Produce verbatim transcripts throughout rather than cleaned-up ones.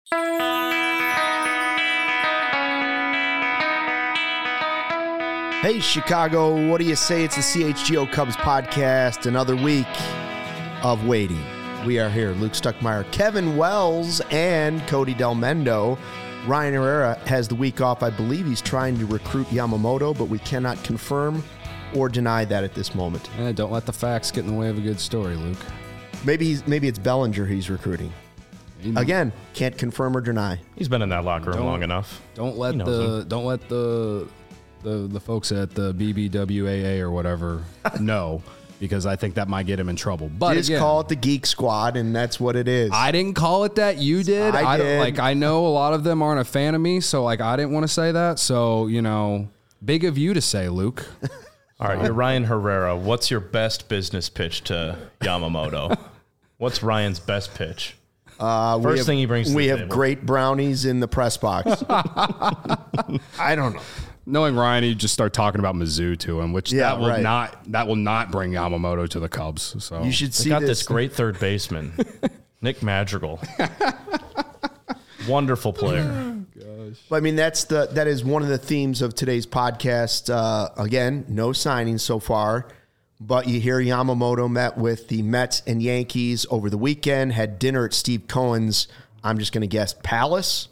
Hey, Chicago, what do you say? It's the C H G O Cubs podcast, another week of waiting. We are here, Luke Stuckmeyer, Kevin Wells, and Cody Del Mendo. Ryan Herrera has the week off. I believe he's trying to recruit Yamamoto, but we cannot confirm or deny that at this moment. Eh, don't let the facts get in the way of a good story, Luke. Maybe he's, maybe it's Bellinger he's recruiting. Again, can't confirm or deny. He's been in that locker room Don't- long enough. Don't let He knows the him. don't let the the the folks at the B B W A A or whatever know, because I think that might get him in trouble. But Just again, call it the Geek Squad, and that's what it is. I didn't call it that. You did. I don't- did. Like I know a lot of them aren't a fan of me, so like I didn't want to say that. So you know, big of you to say, Luke. All right, you're Ryan Herrera. What's your best business pitch to Yamamoto? What's Ryan's best pitch? Uh, we First have- thing he brings to We the have table. great brownies in the press box. I don't know. Knowing Ryan, you just start talking about Mizzou to him, which Yeah, that will right. not that will not bring Yamamoto to the Cubs. So You should They see got this. this great third baseman, Nick Madrigal. Wonderful player. But, I mean, that's the that is one of the themes of today's podcast. Uh, again, no signings so far, but you hear Yamamoto met with the Mets and Yankees over the weekend, had dinner at Steve Cohen's, I'm just going to guess, Palace.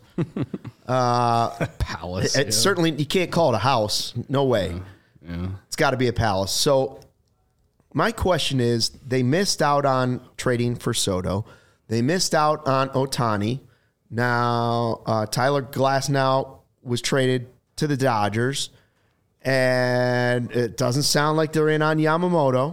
Palace. It's certainly, you can't call it a house. No way. Yeah. It's got to be a palace. So my question is, they missed out on trading for Soto. They missed out on Ohtani. Now, uh, Tyler Glasnow was traded to the Dodgers, and it doesn't sound like they're in on Yamamoto.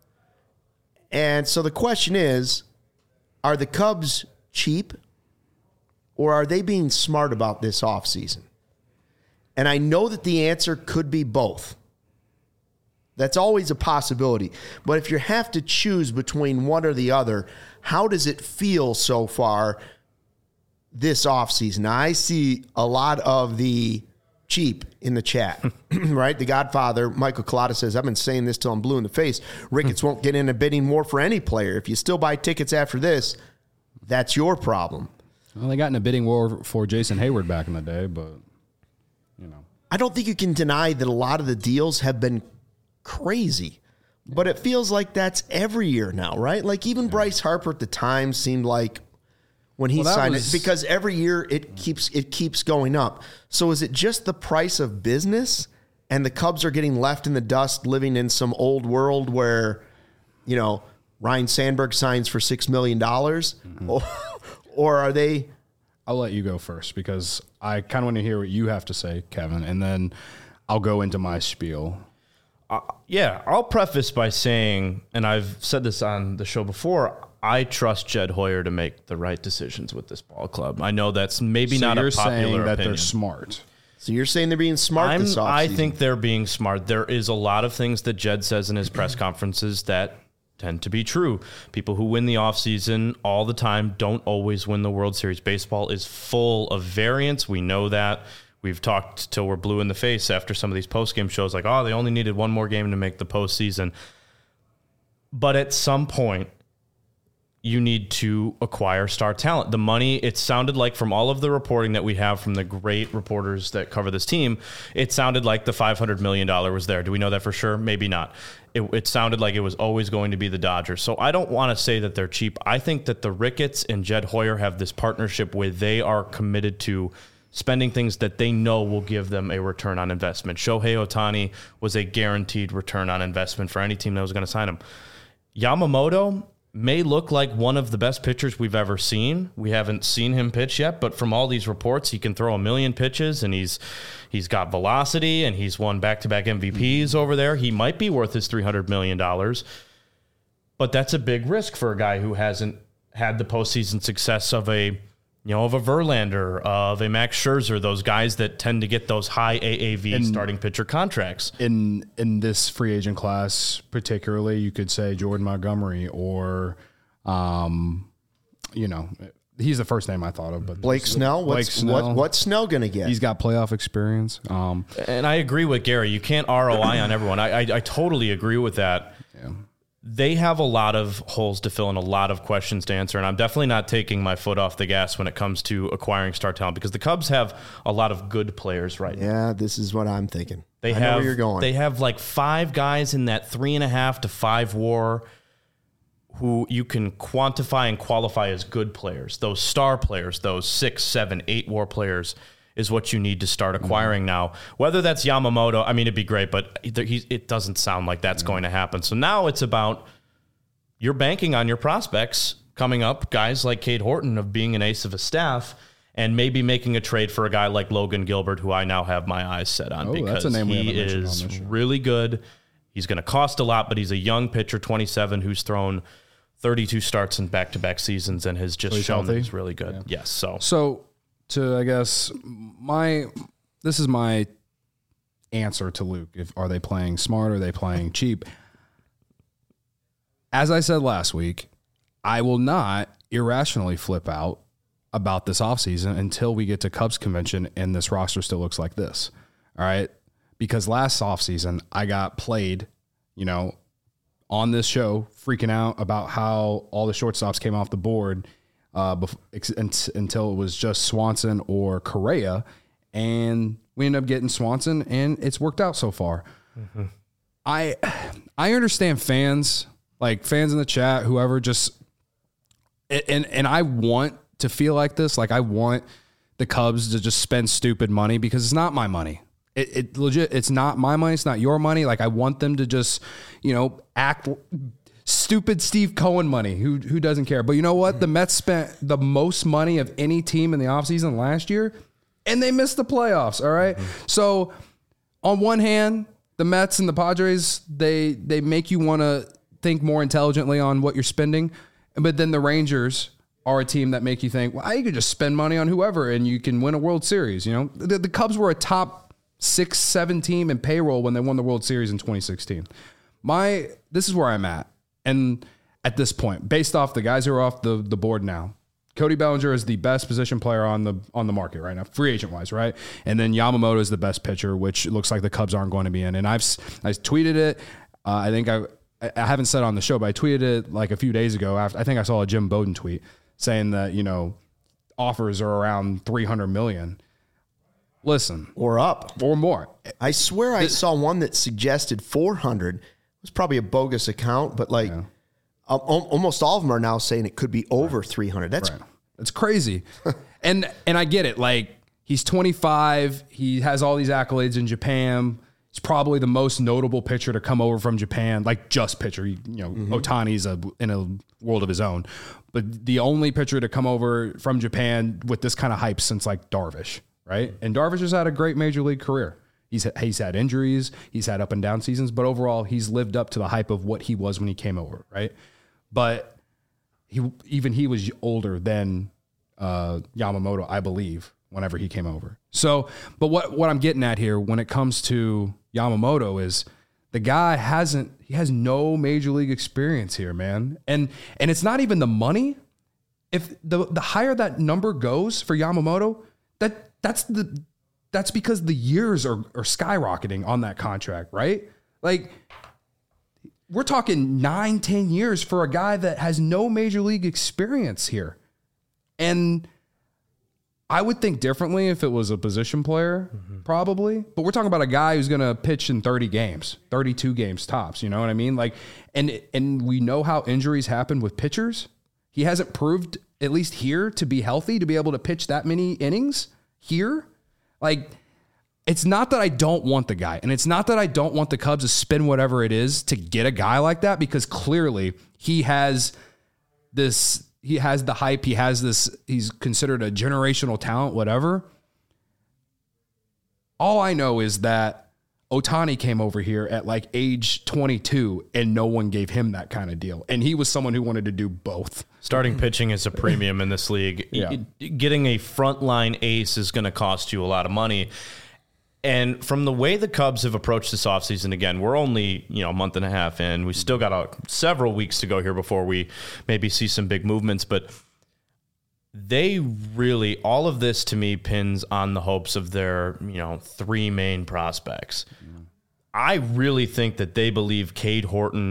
And so the question is, are the Cubs cheap, or are they being smart about this offseason? And I know that the answer could be both. That's always a possibility. But if you have to choose between one or the other, how does it feel so far this offseason? Now, I see a lot of the cheap in the chat, right? The Godfather, Michael Collada, says, I've been saying this till I'm blue in the face. Ricketts won't get in a bidding war for any player. If you still buy tickets after this, that's your problem. Well, they got in a bidding war for Jason Hayward back in the day, but you know, I don't think you can deny that a lot of the deals have been crazy, but it feels like that's every year now, right? Like even yeah. Bryce Harper at the time seemed like when he well, signed was, it, because every year it keeps it keeps going up. So is it just the price of business, and the Cubs are getting left in the dust, living in some old world where, you know, Ryan Sandberg signs for six million dollars, mm-hmm. or, or are they? I'll let you go first because I kind of want to hear what you have to say, Kevin, and then I'll go into my spiel. Uh, yeah, I'll preface by saying, and I've said this on the show before, I trust Jed Hoyer to make the right decisions with this ball club. I know that's maybe so not you're a popular saying that opinion. They're smart. So you're saying they're being smart I'm, this offseason? I think they're being smart. There is a lot of things that Jed says in his press conferences that tend to be true. People who win the offseason all the time don't always win the World Series. Baseball is full of variance. We know that. We've talked till we're blue in the face after some of these post-game shows, like, oh, they only needed one more game to make the postseason. But at some point, you need to acquire star talent. The money, it sounded like from all of the reporting that we have from the great reporters that cover this team, it sounded like the five hundred million dollars was there. Do we know that for sure? Maybe not. It, it sounded like it was always going to be the Dodgers. So I don't want to say that they're cheap. I think that the Ricketts and Jed Hoyer have this partnership where they are committed to spending things that they know will give them a return on investment. Shohei Ohtani was a guaranteed return on investment for any team that was going to sign him. Yamamoto may look like one of the best pitchers we've ever seen. We haven't seen him pitch yet, but from all these reports, he can throw a million pitches, and he's he's got velocity, and he's won back-to-back M V Ps over there. He might be worth his three hundred million dollars, but that's a big risk for a guy who hasn't had the postseason success of a you know, of a Verlander, of a Max Scherzer, those guys that tend to get those high A A V and starting pitcher contracts. In in this free agent class, particularly, you could say Jordan Montgomery or, um, you know, he's the first name I thought of. But Blake Snell. Blake What's, Snell. What, what's Snell going to get? He's got playoff experience. Um, And I agree with Gary. You can't R O I on everyone. I, I I totally agree with that. Yeah. they have a lot of holes to fill and a lot of questions to answer. And I'm definitely not taking my foot off the gas when it comes to acquiring star talent, because the Cubs have a lot of good players right now. Yeah, this is what I'm thinking. They I have, know where you're going. They have like five guys in that three and a half to five war who you can quantify and qualify as good players. Those star players, those six, seven, eight war players is what you need to start acquiring mm-hmm. now. Whether that's Yamamoto, I mean, it'd be great, but he, it doesn't sound like that's mm-hmm. going to happen. So now it's about you're banking on your prospects coming up, guys like Cade Horton of being an ace of a staff, and maybe making a trade for a guy like Logan Gilbert, who I now have my eyes set on, oh, because that's a name we he is really good. He's going to cost a lot, but he's a young pitcher, twenty-seven, who's thrown thirty-two starts in back-to-back seasons and has just so shown healthy? that he's really good. Yeah. Yes. So, so to, I guess, my, this is my answer to Luke. If, are they playing smart? Are they playing cheap? As I said last week, I will not irrationally flip out about this offseason until we get to Cubs convention and this roster still looks like this. All right. Because last offseason I got played, you know, on this show freaking out about how all the shortstops came off the board uh, bef- until it was just Swanson or Correa. And we ended up getting Swanson and it's worked out so far. Mm-hmm. I, I understand fans, like fans in the chat, whoever just, and, and I want to feel like this. Like I want the Cubs to just spend stupid money because it's not my money. It, it legit, it's not my money. It's not your money. Like I want them to just, you know, act stupid Steve Cohen money. Who who doesn't care? But you know what? Mm-hmm. The Mets spent the most money of any team in the offseason last year, and they missed the playoffs. All right. Mm-hmm. So on one hand, the Mets and the Padres, they they make you want to think more intelligently on what you're spending. But then the Rangers are a team that make you think, well, you could just spend money on whoever and you can win a World Series. You know, the, the Cubs were a top six, seven team in payroll when they won the World Series in twenty sixteen. My, this is where I'm at. And at this point, based off the guys who are off the, the board now, Cody Bellinger is the best position player on the on the market right now, free agent wise, right? And then Yamamoto is the best pitcher, which looks like the Cubs aren't going to be in. And I've I tweeted it. Uh, I think I I haven't said it on the show, but I tweeted it like a few days ago. After, I think I saw a Jim Bowden tweet saying that, you know, offers are around three hundred million. Listen, or up or more. I swear I saw one that suggested four hundred. It was probably a bogus account, but like yeah. um, almost all of them are now saying it could be over right. three hundred. That's right. That's crazy. and and I get it. Like he's twenty-five. He has all these accolades in Japan. He's probably the most notable pitcher to come over from Japan, like just pitcher. You know, mm-hmm. Ohtani's a, in a world of his own. But the only pitcher to come over from Japan with this kind of hype since like Darvish, right? And Darvish has had a great major league career. He's he's had injuries, he's had up and down seasons, but overall he's lived up to the hype of what he was when he came over, right? But he even he was older than uh, Yamamoto, I believe, whenever he came over. So, but what what I'm getting at here when it comes to Yamamoto is the guy hasn't he has no major league experience here, man. And and it's not even the money. If the the higher that number goes for Yamamoto, that that's the that's because the years are are skyrocketing on that contract, right? Like we're talking nine, ten years for a guy that has no major league experience here. And I would think differently if it was a position player, mm-hmm. probably. But we're talking about a guy who's going to pitch in thirty games, thirty-two games tops. You know what I mean? Like, and and we know how injuries happen with pitchers. He hasn't proved, at least here, to be healthy, to be able to pitch that many innings here. Like, it's not that I don't want the guy, and it's not that I don't want the Cubs to spend whatever it is to get a guy like that, because clearly he has this. He has the hype. He has this. He's considered a generational talent, whatever. All I know is that Ohtani came over here at like age twenty-two and no one gave him that kind of deal. And he was someone who wanted to do both. Starting pitching is a premium in this league. Yeah. Getting a frontline ace is going to cost you a lot of money. And from the way the Cubs have approached this offseason, again, we're only, you know, a month and a half in. We still got a, several weeks to go here before we maybe see some big movements. But they really, all of this to me pins on the hopes of their, you know, three main prospects. Mm. I really think that they believe Cade Horton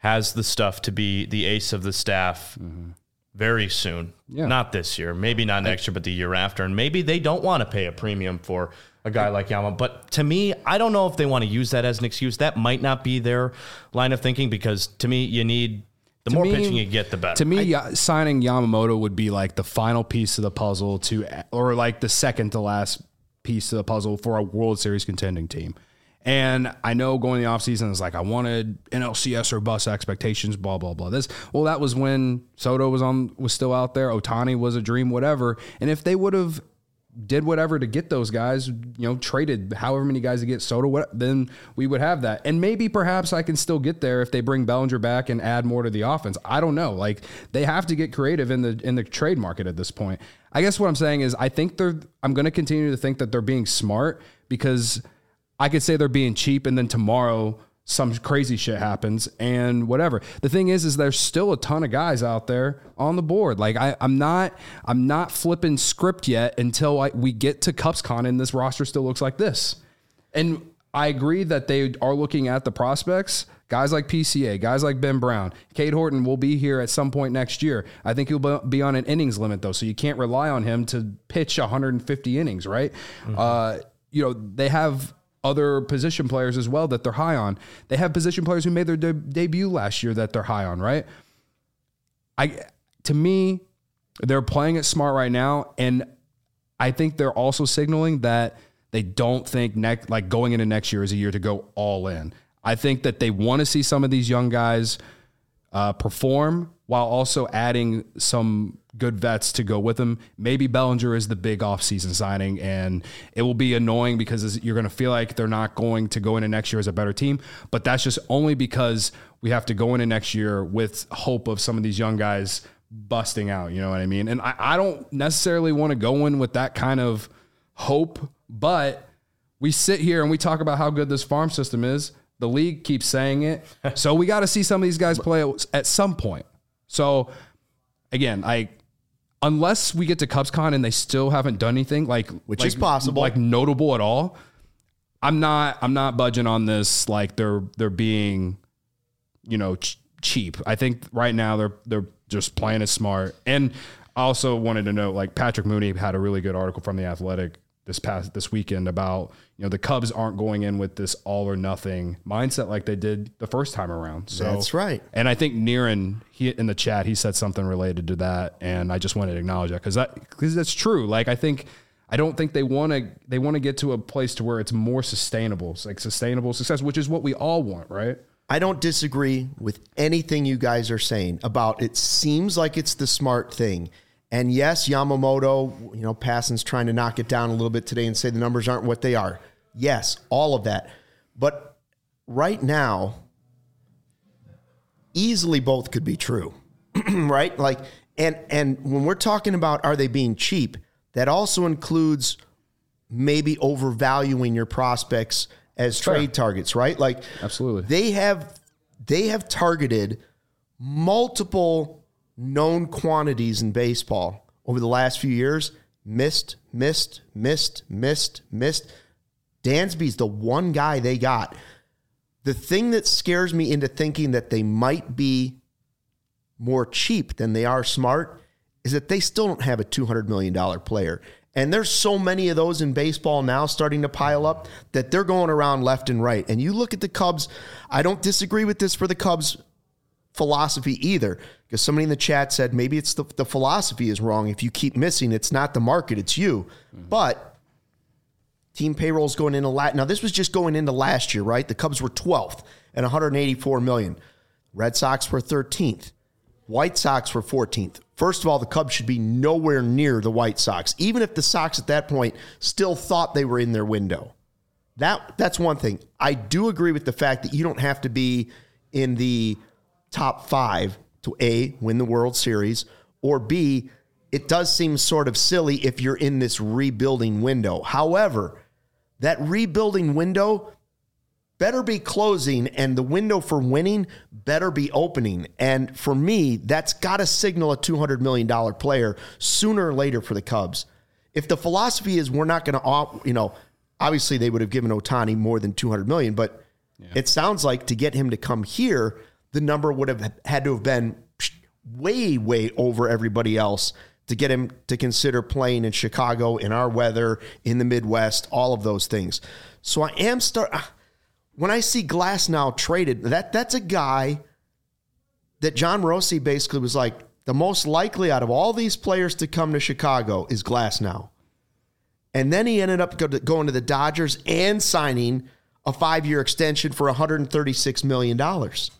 has the stuff to be the ace of the staff mm-hmm. very soon. Yeah. Not this year, maybe not next year, but the year after. And maybe they don't want to pay a premium for a guy like Yama. But to me, I don't know if they want to use that as an excuse. That might not be their line of thinking, because to me, you need the to more me, pitching you get, the better. To me, I, signing Yamamoto would be like the final piece of the puzzle to, or like the second to last piece of the puzzle for a World Series contending team. And I know going in the offseason is like, I wanted N L C S or bust expectations, blah, blah, blah. This, well, that was when Soto was on, was still out there. Ohtani was a dream, whatever. And if they would have did whatever to get those guys, you know, traded however many guys to get Soto, what, then we would have that. And maybe perhaps I can still get there if they bring Bellinger back and add more to the offense. I don't know. Like, they have to get creative in the in the trade market at this point. I guess what I'm saying is I think they're I'm going to continue to think that they're being smart, because I could say they're being cheap and then tomorrow some crazy shit happens and whatever. The thing is, is there's still a ton of guys out there on the board. Like I, I'm not, I'm not flipping script yet until I, we get to CupsCon and this roster still looks like this. And I agree that they are looking at the prospects, guys like P C A, guys like Ben Brown. Cade Horton will be here at some point next year. I think he'll be on an innings limit though, so you can't rely on him to pitch one hundred fifty innings, right? Mm-hmm. Uh, you know, they have other position players as well that they're high on. They have position players who made their de- debut last year that they're high on, right? I, to me, they're playing it smart right now, and I think they're also signaling that they don't think next, like going into next year is a year to go all in. I think that they want to see some of these young guys uh, perform while also adding some good vets to go with them. Maybe Bellinger is the big offseason signing, and it will be annoying because you're going to feel like they're not going to go into next year as a better team. But that's just only because we have to go into next year with hope of some of these young guys busting out. You know what I mean? And I, I don't necessarily want to go in with that kind of hope, but we sit here and we talk about how good this farm system is. The league keeps saying it. So we got to see some of these guys play at some point. So again, I, unless we get to CupsCon and they still haven't done anything like, which like, is possible, like notable at all, I'm not, I'm not budging on this. Like they're, they're being, you know, ch- cheap. I think right now they're, they're just playing it smart. And I also wanted to note, like Patrick Mooney had a really good article from The Athletic this past, this weekend about, you know, the Cubs aren't going in with this all or nothing mindset like they did the first time around. So that's right. And I think Niren, he in the chat, he said something related to that. And I just wanted to acknowledge that because that, because that's true. Like, I think, I don't think they want to, they want to get to a place to where it's more sustainable. It's like sustainable success, which is what we all want, right? I don't disagree with anything you guys are saying about it. Seems like it's the smart thing. And yes, Yamamoto, you know, Passan's trying to knock it down a little bit today and say the numbers aren't what they are. Yes, all of that. But right now, easily both could be true, right? Like, and and when we're talking about are they being cheap, that also includes maybe overvaluing your prospects as Sure. trade targets, right? Like, Absolutely. They have they have targeted multiple known quantities in baseball over the last few years. Missed, missed, missed, missed, missed. Dansby's the one guy they got. The thing that scares me into thinking that they might be more cheap than they are smart is that they still don't have a two hundred million dollars player. And there's so many of those in baseball now starting to pile up that they're going around left and right. And you look at the Cubs, I don't disagree with this for the Cubs philosophy either, because somebody in the chat said maybe it's the, the philosophy is wrong. If you keep missing, it's not the market, it's you. Mm-hmm. But team payroll's going into last. Now, this was just going into last year, right? The Cubs were twelfth at one hundred eighty-four million dollars. Red Sox were thirteenth. White Sox were fourteenth. First of all, the Cubs should be nowhere near the White Sox, even if the Sox at that point still thought they were in their window. That That's one thing. I do agree with the fact that you don't have to be in the top five to A, win the World Series, or B, it does seem sort of silly if you're in this rebuilding window. However, that rebuilding window better be closing and the window for winning better be opening. And for me, that's got to signal a two hundred million dollars player sooner or later for the Cubs. If the philosophy is we're not going to, you know, obviously they would have given Ohtani more than two hundred million dollars, but yeah. It sounds like to get him to come here, the number would have had to have been way, way over everybody else to get him to consider playing in Chicago, in our weather, in the Midwest, all of those things. So I am start when I see Glasnow traded, that that's a guy that John Morosi basically was like, the most likely out of all these players to come to Chicago is Glasnow. And then he ended up go to, going to the Dodgers and signing a five-year extension for one hundred thirty-six million dollars.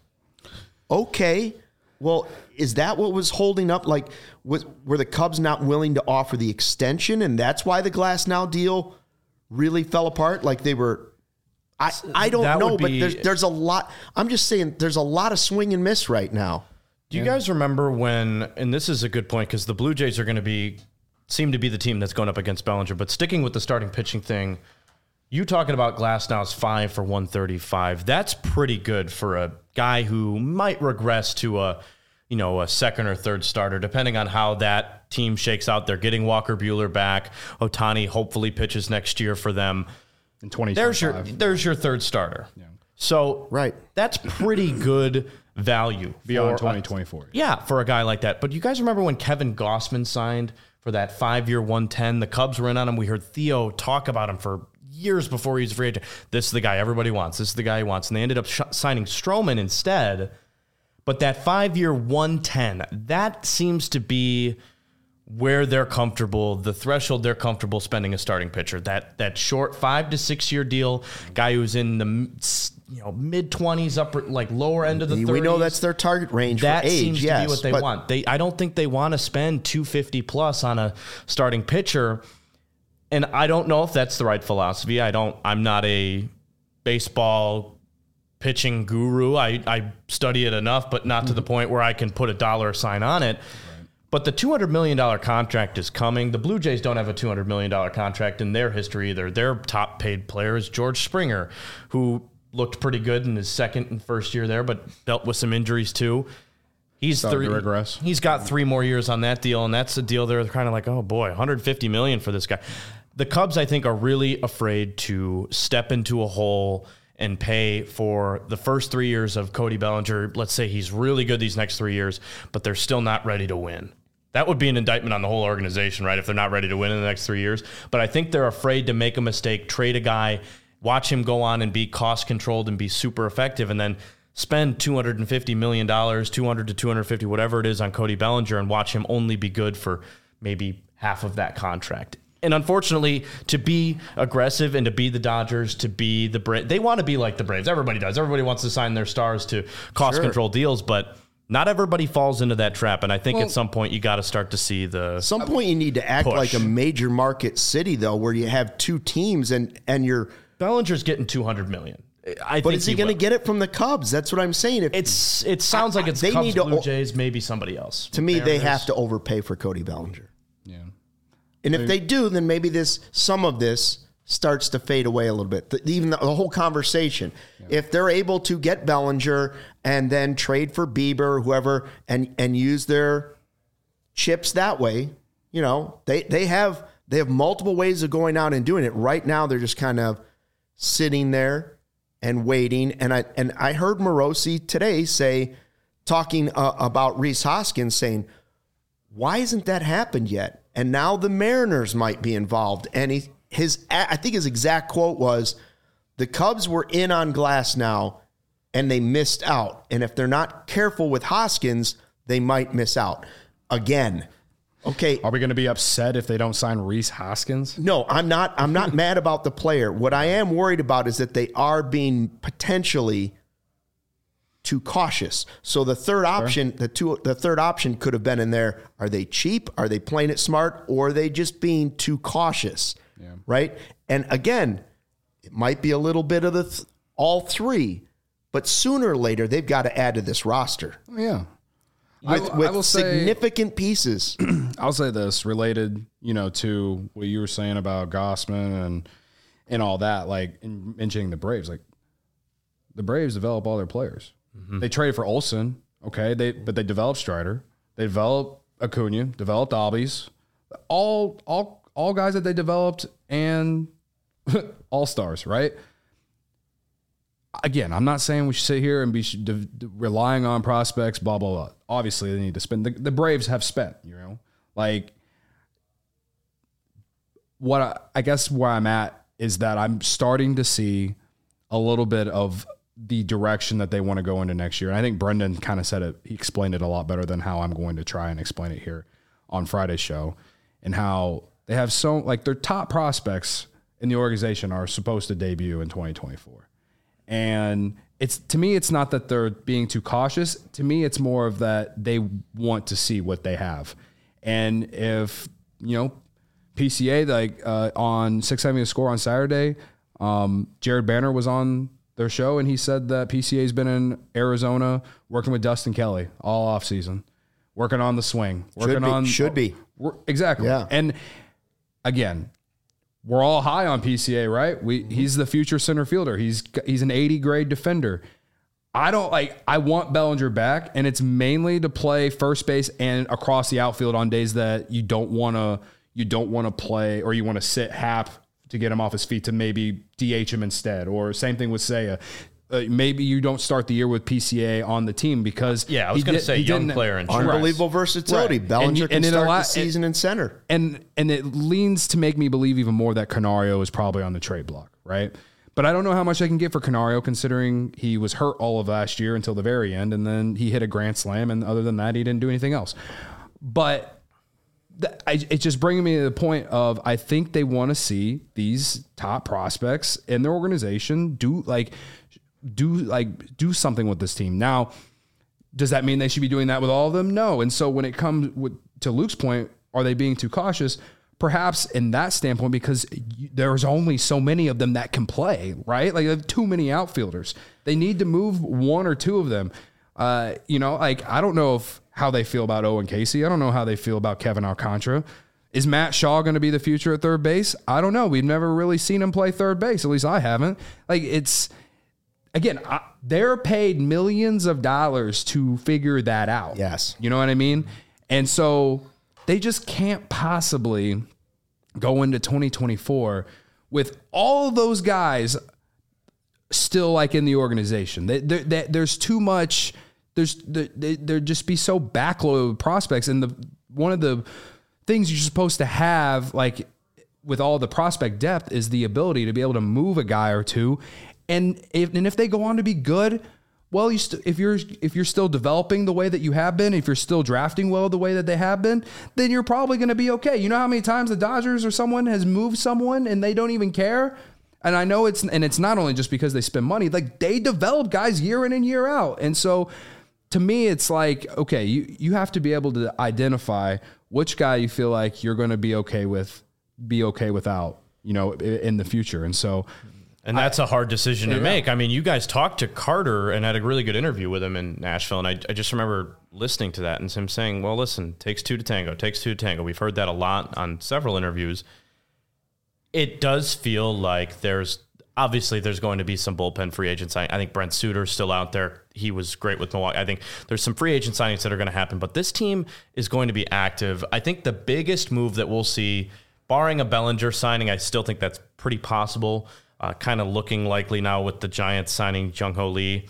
Okay, well, is that what was holding up? Like, was, were the Cubs not willing to offer the extension, and that's why the Glasnow deal really fell apart? Like they were, I, I don't That know, would but be- there's there's a lot. I'm just saying there's a lot of swing and miss right now. Do you guys remember when, and this is a good point because the Blue Jays are going to be, seem to be the team that's going up against Bellinger, but sticking with the starting pitching thing, you talking about Glasnow's five for one thirty-five, that's pretty good for a guy who might regress to a, you know, a second or third starter, depending on how that team shakes out. They're getting Walker Buehler back. Ohtani hopefully pitches next year for them. In twenty There's your, twenty-five. there's your third starter. Yeah. So Right. that's pretty good value. Beyond for a- twenty twenty-four. Yeah, for a guy like that. But you guys remember when Kevin Gossman signed for that five-year one ten? The Cubs were in on him. We heard Theo talk about him for years before he was a free agent. This is the guy everybody wants. This is the guy he wants. And they ended up sh- signing Stroman instead. But that five-year one ten, that seems to be where they're comfortable, the threshold they're comfortable spending a starting pitcher. That that short five to six year deal, guy who's in the you know mid twenties, upper like lower end of the thirties. We know that's their target range That for age. seems yes, to be what they but want. They I don't think they want to spend two fifty plus on a starting pitcher. And I don't know if that's the right philosophy. I don't I'm not a baseball pitching guru. I, I study it enough, but not to the point where I can put a dollar sign on it. But the two hundred million dollars contract is coming. The Blue Jays don't have a two hundred million dollars contract in their history either. Their top paid player is George Springer, who looked pretty good in his second and first year there, but dealt with some injuries too. He's Started three, to regress. He's got three more years on that deal, and that's a deal they're kind of like, oh boy, one hundred fifty million dollars for this guy. The Cubs, I think, are really afraid to step into a hole and pay for the first three years of Cody Bellinger. Let's say he's really good these next three years, but they're still not ready to win. That would be an indictment on the whole organization, right, if they're not ready to win in the next three years. But I think they're afraid to make a mistake, trade a guy, watch him go on and be cost-controlled and be super effective, and then spend two hundred fifty million dollars, two hundred to two hundred fifty, whatever it is, on Cody Bellinger and watch him only be good for maybe half of that contract. And unfortunately, to be aggressive and to be the Dodgers, to be the Braves, they want to be like the Braves. Everybody does. Everybody wants to sign their stars to cost-control deals, but not everybody falls into that trap. And I think Well, at some point you got to start to see the At some point you need to act Push. like a major market city, though, where you have two teams and and you're. Bellinger's getting two hundred million dollars. I But think is he, he going to will. get it from the Cubs? That's what I'm saying. If, It's it sounds like it's They Cubs, need to- Blue Jays, maybe somebody else. to me, they Mariners. have to overpay for Cody Bellinger. Yeah. And if they do, then maybe this some of this starts to fade away a little bit. The, even the, the whole conversation. If they're able to get Bellinger and then trade for Bieber, whoever, and and use their chips that way, you know, they they have they have multiple ways of going out and doing it. Right now, they're just kind of sitting there and waiting. And I and I heard Morosi today say, talking uh, about Rhys Hoskins, saying, why hasn't that happened yet? And now the Mariners might be involved. And he, his, I think his exact quote was, the Cubs were in on Glasnow and they missed out. And if they're not careful with Hoskins, they might miss out again. Okay. Are we going to be upset if they don't sign Rhys Hoskins? No, I'm not. I'm not mad about the player. What I am worried about is that they are being potentially too cautious. So the third option, the two, the third option could have been in there. Are they cheap? Are they playing it smart? Or are they just being too cautious? Yeah. Right. And again, it might be a little bit of the th- all three, but sooner or later they've got to add to this roster Yeah. with, I, with I will say, significant pieces. I'll say this related, you know, to what you were saying about Gossman and and all that, like in mentioning the Braves. Like the Braves develop all their players. Mm-hmm. They traded for Olsen, okay, they but they developed Strider, they developed Acuna, developed Albies, all all all guys that they developed and all stars, right? again, I'm not saying we should sit here and be sh- de- de- relying on prospects, blah, blah, blah. Obviously, they need to spend. The, the Braves have spent, you know, like what I, I guess where I'm at is that I'm starting to see a little bit of the direction that they want to go into next year. And I think Brendan kind of said it. He explained it a lot better than how I'm going to try and explain it here on Friday's show, and how they have so like their top prospects in the organization are supposed to debut in twenty twenty-four. And it's, to me, it's not that they're being too cautious. To me, it's more of that they want to see what they have. And if, you know, P C A, like uh, on six seventy The Score on Saturday, um, Jared Banner was on their show, and he said that P C A's been in Arizona working with Dustin Kelly all offseason, working on the swing, working should be, on should be exactly. Yeah. And again, we're all high on P C A, right? We he's the future center fielder. He's he's an eighty grade defender. I don't like. I want Bellinger back, and it's mainly to play first base and across the outfield on days that you don't want to. You don't want to play, or you want to sit Hap to get him off his feet to maybe D H him instead, or same thing with Seiya. Uh, maybe you don't start the year with P C A on the team because yeah, I was going to say young player and unbelievable versatility. Right. Bellinger and, can and start allow, the season and, in center, and and it leans to make me believe even more that Canario is probably on the trade block, right? But I don't know how much I can get for Canario, considering he was hurt all of last year until the very end, and then he hit a grand slam, and other than that, he didn't do anything else. But it's just bringing me to the point of I think they want to see these top prospects in their organization do like do like do something with this team. Now, does that mean they should be doing that with all of them? No. And so when it comes with, to Luke's point, are they being too cautious? Perhaps in that standpoint, because there's only so many of them that can play, right? Like they have too many outfielders. They need to move one or two of them. Uh, you know, like I don't know if how they feel about Owen Casey. I don't know how they feel about Kevin Alcantara. Is Matt Shaw going to be the future at third base? I don't know. We've never really seen him play third base. At least I haven't. Like it's, again, I, they're paid millions of dollars to figure that out. Yes. You know what I mean? And so they just can't possibly go into twenty twenty-four with all of those guys still like in the organization. They, they, they, there's too much... There's they, there'd just be so backloaded prospects, and the one of the things you're supposed to have, like with all the prospect depth, is the ability to be able to move a guy or two, and if and if they go on to be good, well, you st- if you're if you're still developing the way that you have been, if you're still drafting well the way that they have been, then you're probably going to be okay. You know how many times the Dodgers or someone has moved someone and they don't even care. And I know it's and it's not only just because they spend money, like they develop guys year in and year out, and so. To me, it's like, okay, you, you have to be able to identify which guy you feel like you're going to be okay with, be okay without, you know, in the future. And so, and that's I, a hard decision to yeah. make. I mean, you guys talked to Carter and had a really good interview with him in Nashville. And I, I just remember listening to that and him saying, well, listen, takes two to tango, takes two to tango. We've heard that a lot on several interviews. It does feel like there's, obviously, there's going to be some bullpen free agent signing. I think Brent Suter's still out there. He was great with Milwaukee. I think there's some free agent signings that are going to happen, but this team is going to be active. I think the biggest move that we'll see, barring a Bellinger signing, I still think that's pretty possible, uh, kind of looking likely now with the Giants signing Jung-Ho Lee.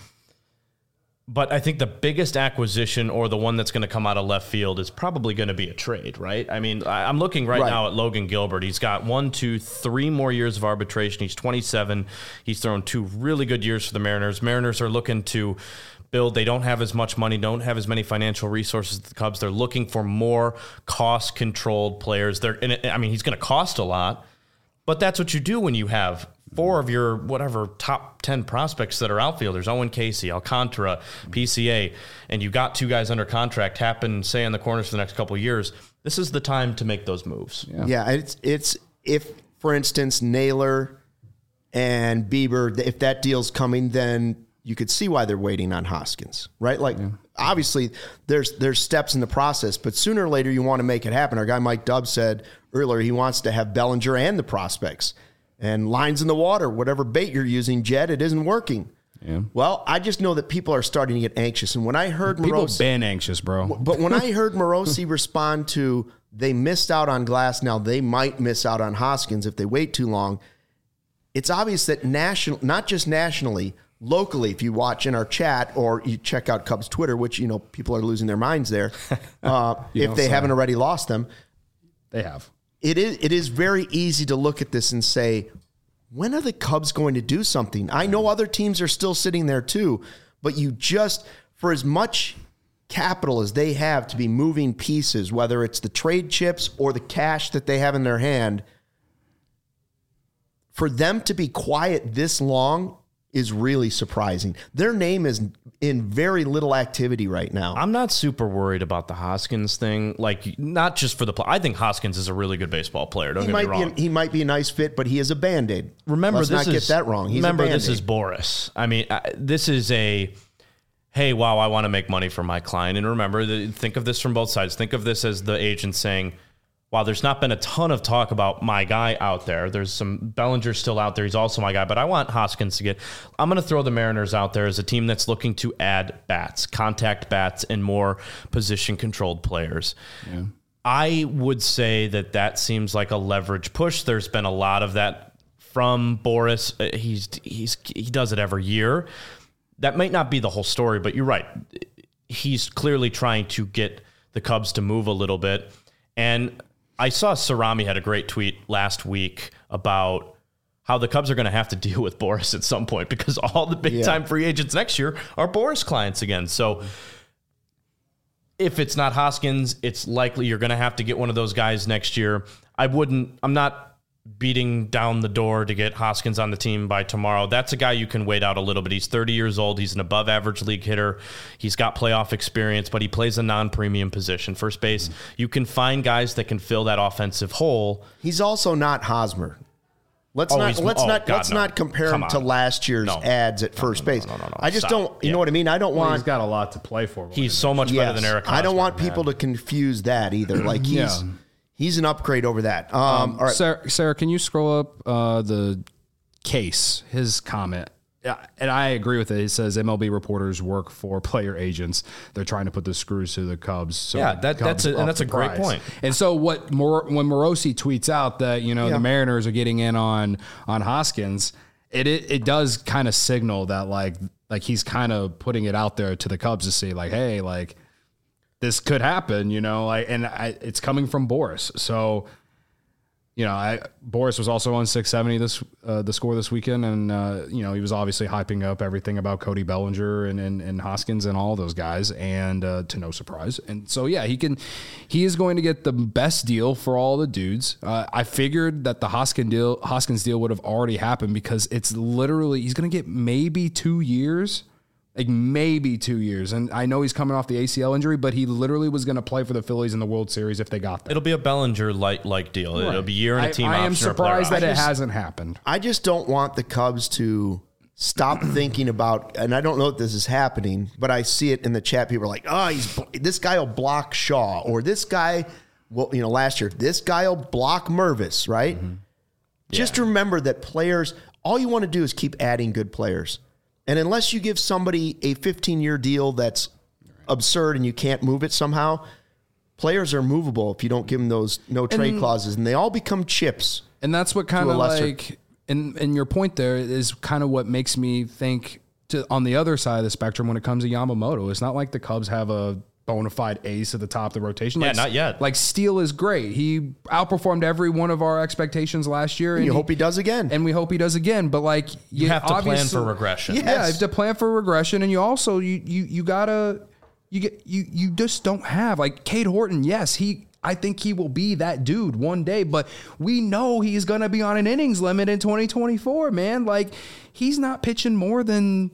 But I think the biggest acquisition, or the one that's going to come out of left field, is probably going to be a trade, right? I mean, I'm looking right, right now at Logan Gilbert. He's got one, two, three more years of arbitration. He's twenty-seven. He's thrown two really good years for the Mariners. Mariners are looking to build. They don't have as much money, don't have as many financial resources as the Cubs. They're looking for more cost-controlled players. They're, and it, I mean, he's going to cost a lot, but that's what you do when you have four of your whatever top ten prospects that are outfielders, Owen Casey, Alcantara, P C A, and you got two guys under contract, happen, say, in the corners for the next couple of years. This is the time to make those moves. Yeah, yeah it's it's if, for instance, Naylor and Bieber, if that deal's coming, then you could see why they're waiting on Hoskins, right? Like, yeah. Obviously, there's there's steps in the process, but sooner or later you want to make it happen. Our guy Mike Dubb said earlier he wants to have Bellinger and the prospects. And lines in the water, whatever bait you're using, Jed, it isn't working. Yeah. Well, I just know that people are starting to get anxious. And when I heard people Morosi, been anxious, bro. But when I heard Morosi respond to they missed out on Glass, now they might miss out on Hoskins if they wait too long. It's obvious that national, not just nationally, locally, if you watch in our chat or you check out Cubs Twitter, which, you know, people are losing their minds there, uh, if they so. haven't already lost them. They have. It is, it is very easy to look at this and say, when are the Cubs going to do something? I know other teams are still sitting there too, but you just, for as much capital as they have to be moving pieces, whether it's the trade chips or the cash that they have in their hand, for them to be quiet this long is really surprising. Their name is in very little activity right now. I'm not super worried about the Hoskins thing. Like, not just for the play. I think Hoskins is a really good baseball player. Don't he get might me wrong. Be a, he might be a nice fit, but he is a Band-Aid. Remember, Let's this not is, get that wrong. He's remember, a this is Boris. I mean, I, this is a, hey, wow, I want to make money for my client. And remember, the, think of this from both sides. Think of this as the agent saying, wow, there's not been a ton of talk about my guy out there. There's some Bellinger still out there. He's also my guy, but I want Hoskins to get, I'm going to throw the Mariners out there as a team that's looking to add bats, contact bats, and more position controlled players. Yeah. I would say that that seems like a leverage push. There's been a lot of that from Boris. He's, he's, he does it every year. That might not be the whole story, but you're right. He's clearly trying to get the Cubs to move a little bit. And I saw Cerami had a great tweet last week about how the Cubs are going to have to deal with Boris at some point because all the big-time yeah. free agents next year are Boris clients again. So if it's not Hoskins, it's likely you're going to have to get one of those guys next year. I wouldn't, I'm not beating down the door to get Hoskins on the team by tomorrow. That's a guy you can wait out a little bit. He's thirty years old. He's an above average league hitter. He's got playoff experience, but he plays a non-premium position, first base. Mm-hmm. You can find guys that can fill that offensive hole. He's also not Hosmer. Let's oh, not let's oh, not God, let's no. not compare Come him to on. last year's no. ads at first no, no, base. No, no, no, no. I just Stop. don't. You yeah. know what I mean? I don't well, want. He's got a lot to play for. He's so much yes. better than Eric Hosmer. I don't want man. people to confuse that either. Like he's. Yeah. He's an upgrade over that. Um, Um, all right. Sarah, Sarah, can you scroll up uh, the case, his comment? Yeah, and I agree with it. He says M L B reporters work for player agents. They're trying to put the screws to the Cubs. So yeah, that, Cubs that's a, and that's a great price. point. And so what? Mor- when Morosi tweets out that you know Yeah. the Mariners are getting in on on Hoskins, it it, it does kind of signal that like like he's kind of putting it out there to the Cubs to see like, hey, like this could happen, you know, like, and I, it's coming from Boris. So, you know, I, Boris was also on six seventy this, uh, the score this weekend. And, uh, you know, he was obviously hyping up everything about Cody Bellinger and, and, and Hoskins and all those guys. And, uh, to no surprise. And so, yeah, he can, he is going to get the best deal for all the dudes. Uh, I figured that the Hoskins deal, Hoskins deal would have already happened because it's literally, he's going to get maybe two years. Like maybe two years. And I know he's coming off the A C L injury, but he literally was going to play for the Phillies in the World Series if they got there. It'll be a Bellinger like like deal. Right. It'll be year and a team I, option. I am surprised that it hasn't happened. I just don't want the Cubs to stop thinking about, and I don't know if this is happening, but I see it in the chat. People are like, oh, he's this guy will block Shaw, or this guy, well, you know, last year, this guy will block Mervis, right? Mm-hmm. Just yeah. remember that players, all you want to do is keep adding good players. And unless you give somebody a fifteen-year deal that's absurd and you can't move it somehow, players are movable if you don't give them those no trade and, clauses, and they all become chips. And that's what kind of like, and, and your point there is kind of what makes me think to, on the other side of the spectrum when it comes to Yamamoto. It's not like the Cubs have a bona fide ace at the top of the rotation. Yeah, like, not yet. Like Steele is great. He outperformed every one of our expectations last year. And, and you he, hope he does again. And we hope he does again. But like you, you have to plan for regression. Yes. Yeah, you have to plan for regression. And you also you you you gotta you get you you just don't have like Cade Horton, yes, he I think he will be that dude one day, but we know he's gonna be on an innings limit in twenty twenty-four, man. Like he's not pitching more than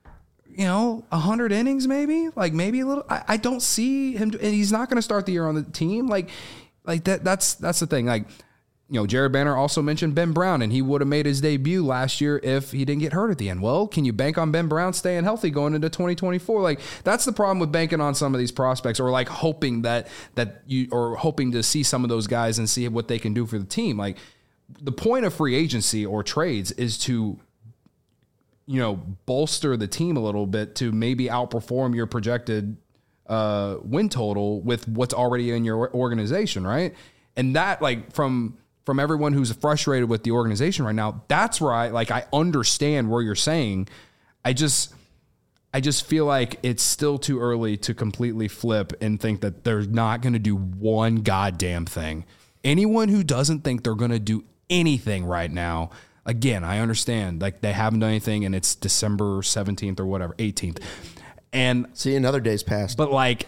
you know, a hundred innings, maybe like maybe a little, I, I don't see him, and he's not going to start the year on the team. Like, like that, that's, that's the thing. Like, you know, Jared Banner also mentioned Ben Brown, and he would have made his debut last year if he didn't get hurt at the end. Well, can you bank on Ben Brown staying healthy going into twenty twenty-four? Like that's the problem with banking on some of these prospects, or like hoping that, that you, or hoping to see some of those guys and see what they can do for the team. Like the point of free agency or trades is to, you know, bolster the team a little bit to maybe outperform your projected uh, win total with what's already in your organization, right? And that, like, from from everyone who's frustrated with the organization right now, that's where I, like, I understand where you're saying, I just I just feel like it's still too early to completely flip and think that they're not going to do one goddamn thing. Anyone who doesn't think they're going to do anything right now, again, I understand. Like, they haven't done anything, and it's December seventeenth or whatever, eighteenth. And see, another day's passed. But, like,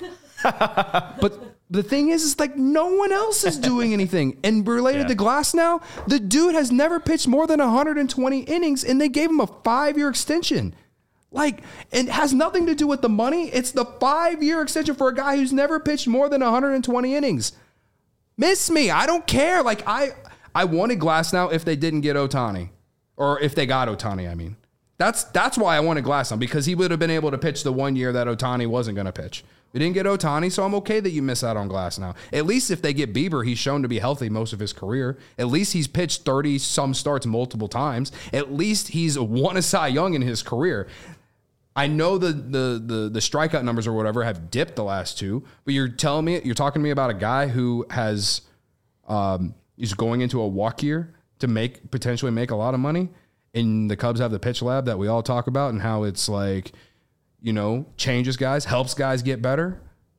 but the thing is, is like no one else is doing anything. And related yeah. to Glasnow, the dude has never pitched more than one hundred twenty innings, and they gave him a five-year extension. Like, it has nothing to do with the money. It's the five-year extension for a guy who's never pitched more than one hundred twenty innings. Miss me. I don't care. Like, I I wanted Glasnow if they didn't get Ohtani. Or if they got Ohtani, I mean. That's that's why I wanted Glasnow, because he would have been able to pitch the one year that Ohtani wasn't going to pitch. We didn't get Ohtani, so I'm okay that you miss out on Glasnow. At least if they get Bieber, he's shown to be healthy most of his career. At least he's pitched thirty-some starts multiple times. At least he's won a Cy Young in his career. I know the, the the the strikeout numbers or whatever have dipped the last two, but you're telling me, you're talking to me about a guy who has, um, is going into a walk year to make, potentially make a lot of money, and the Cubs have the pitch lab that we all talk about and how it's like, you know, changes guys, helps guys get better.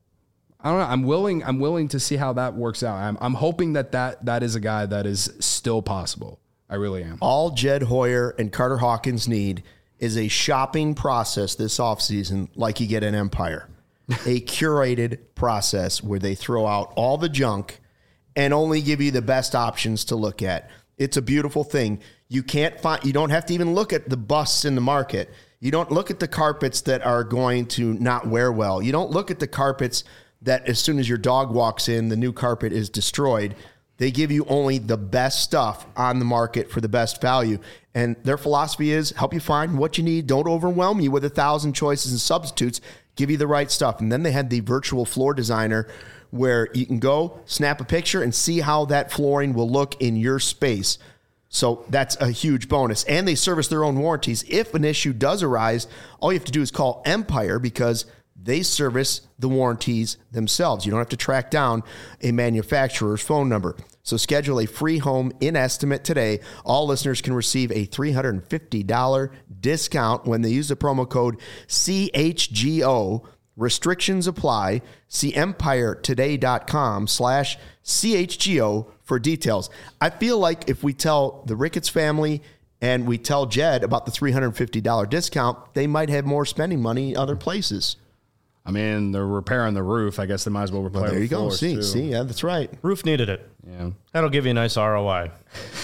I don't know. I'm willing, I'm willing to see how that works out. I'm, I'm hoping that, that that is a guy that is still possible. I really am. All Jed Hoyer and Carter Hawkins need is a shopping process this offseason like you get in Empire. A curated process where they throw out all the junk and only give you the best options to look at. It's a beautiful thing. You can't find, you don't have to even look at the busts in the market. You don't look at the carpets that are going to not wear well. You don't look at the carpets that as soon as your dog walks in, the new carpet is destroyed. They give you only the best stuff on the market for the best value. And their philosophy is help you find what you need. Don't overwhelm you with a thousand choices and substitutes. Give you the right stuff. And then they had the virtual floor designer where you can go, snap a picture, and see how that flooring will look in your space. So that's a huge bonus. And they service their own warranties. If an issue does arise, all you have to do is call Empire because they service the warranties themselves. You don't have to track down a manufacturer's phone number. So schedule a free home in estimate today. All listeners can receive a three hundred fifty dollars discount when they use the promo code C H G O. Restrictions apply. See empiretoday.com slash CHGO for details. I feel like if we tell the Ricketts family and we tell Jed about the three hundred fifty dollars discount, they might have more spending money other places. I mean, they're repairing the roof. I guess they might as well repair well, there the you go. See, too. see, yeah, that's right. Roof needed it. Yeah, that'll give you a nice R O I.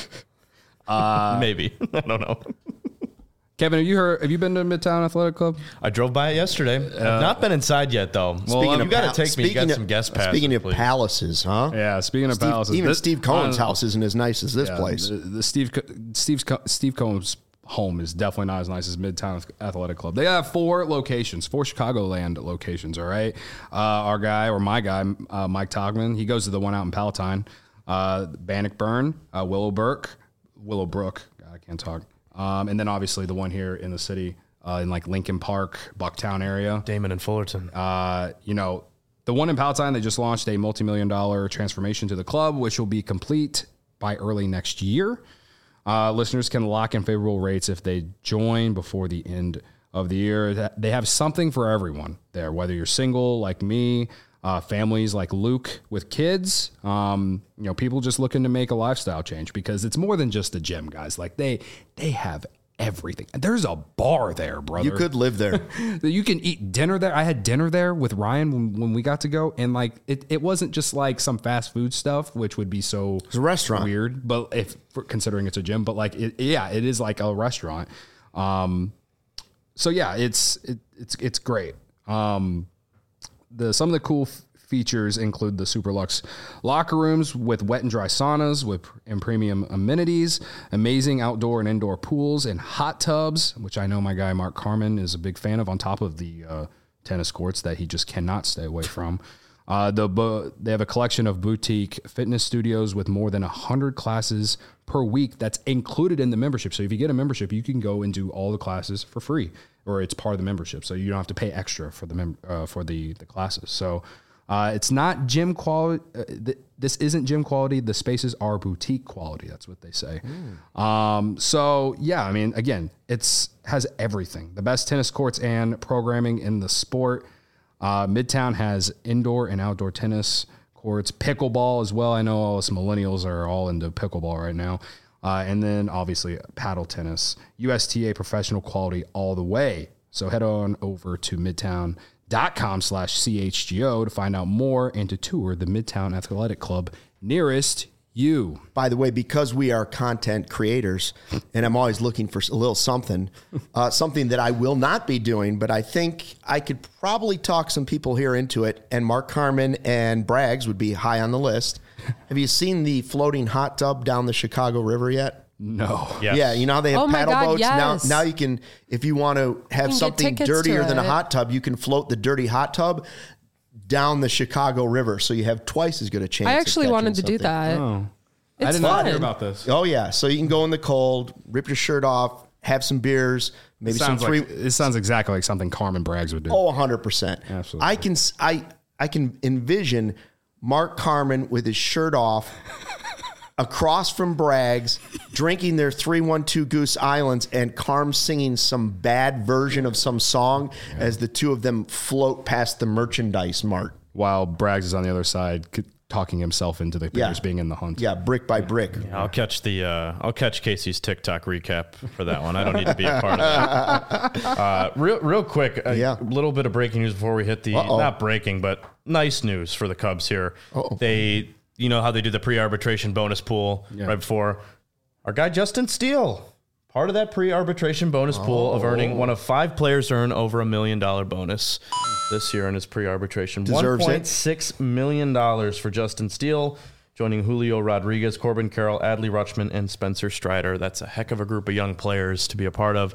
uh, Maybe. I don't know. Kevin, have you heard? Have you been to Midtown Athletic Club? I drove by it yesterday. Uh, I've not been inside yet, though. Well, speaking you of got to take me. You got of, some guest passes. Speaking of please. palaces, huh? Yeah. Speaking of Steve, palaces, even this, Steve Cohen's uh, house isn't as nice as this yeah, place. The, the Steve Steve Steve Cohen's home is definitely not as nice as Midtown Athletic Club. They have four locations, four Chicagoland locations. All right, uh, our guy or my guy, uh, Mike Togman, he goes to the one out in Palatine, uh, Bannockburn, uh, Willowbrook, Willowbrook. God, I can't talk. Um, and then obviously the one here in the city, uh, in like Lincoln Park, Bucktown area. Damon and Fullerton. Uh, you know, the one in Palatine, they just launched a multi-million dollar transformation to the club, which will be complete by early next year. Uh, listeners can lock in favorable rates if they join before the end of the year. They have something for everyone there, whether you're single like me, uh, families like Luke with kids, um, you know, people just looking to make a lifestyle change, because it's more than just a gym, guys. Like they, they have everything. There's a bar there, brother. You could live there. You can eat dinner there. I had dinner there with Ryan when, when we got to go, and like it, it wasn't just like some fast food stuff, which would be so it's a restaurant. Weird. But if considering it's a gym, but like it, yeah, it is like a restaurant. Um, so yeah, it's it, it's it's great. Um, the some of the cool f- features include the Super Luxe locker rooms with wet and dry saunas with and premium amenities, amazing outdoor and indoor pools and hot tubs, which I know my guy Mark Carmen is a big fan of, on top of the uh, tennis courts that he just cannot stay away from. Uh, the bu- they have a collection of boutique fitness studios with more than one hundred classes per week that's included in the membership. So if you get a membership, you can go and do all the classes for free, or it's part of the membership. So you don't have to pay extra for the mem- uh, for the, the classes. So Uh, it's not gym quality. Uh, th- this isn't gym quality. The spaces are boutique quality. That's what they say. Mm. Um, so yeah, I mean, again, it's has everything. The best tennis courts and programming in the sport. Uh, Midtown has indoor and outdoor tennis courts, pickleball as well. I know all us millennials are all into pickleball right now. Uh, and then obviously paddle tennis, U S T A professional quality all the way. So head on over to midtown.com slash CHGO to find out more and to tour the Midtown Athletic Club nearest you. By the way, because we are content creators and I'm always looking for a little something, uh, something that I will not be doing, but I think I could probably talk some people here into it. And Mark Carman and Braggs would be high on the list. Have you seen the floating hot tub down the Chicago River yet? No. Yes. Yeah, you know how they have Oh my paddle God, boats? yes. Now now you can, if you want to have can get something tickets dirtier to than a it. hot tub, you can float the dirty hot tub down the Chicago River. So you have twice as good a chance. I of actually catching wanted to do something. that. Oh. It's I did not fun. hear about this. Oh, yeah. So you can go in the cold, rip your shirt off, have some beers, maybe some Sounds free. like, it sounds exactly like something Carmen Braggs would do. Oh, one hundred percent. Absolutely. I can, s- I, I can envision Mark Carman with his shirt off across from Braggs, drinking their three one two Goose Islands, and Carm singing some bad version of some song yeah. as the two of them float past the merchandise mart. While Braggs is on the other side, c- talking himself into the Bears Yeah. being in the hunt. Yeah, brick by brick. I'll catch the uh, I'll catch Casey's TikTok recap for that one. I don't need to be a part of that. Uh, real real quick, a Yeah. little bit of breaking news before we hit the Uh-oh. not breaking, but nice news for the Cubs here. Uh-oh. They you know how they do the pre-arbitration bonus pool Yeah. right before our guy Justin Steele. Part of that pre-arbitration bonus pool Oh. of earning one of five players to earn over a million dollar bonus this year in his pre-arbitration. Deserves it. one point six million dollars for Justin Steele, joining Julio Rodriguez, Corbin Carroll, Adley Rutschman, and Spencer Strider. That's a heck of a group of young players to be a part of.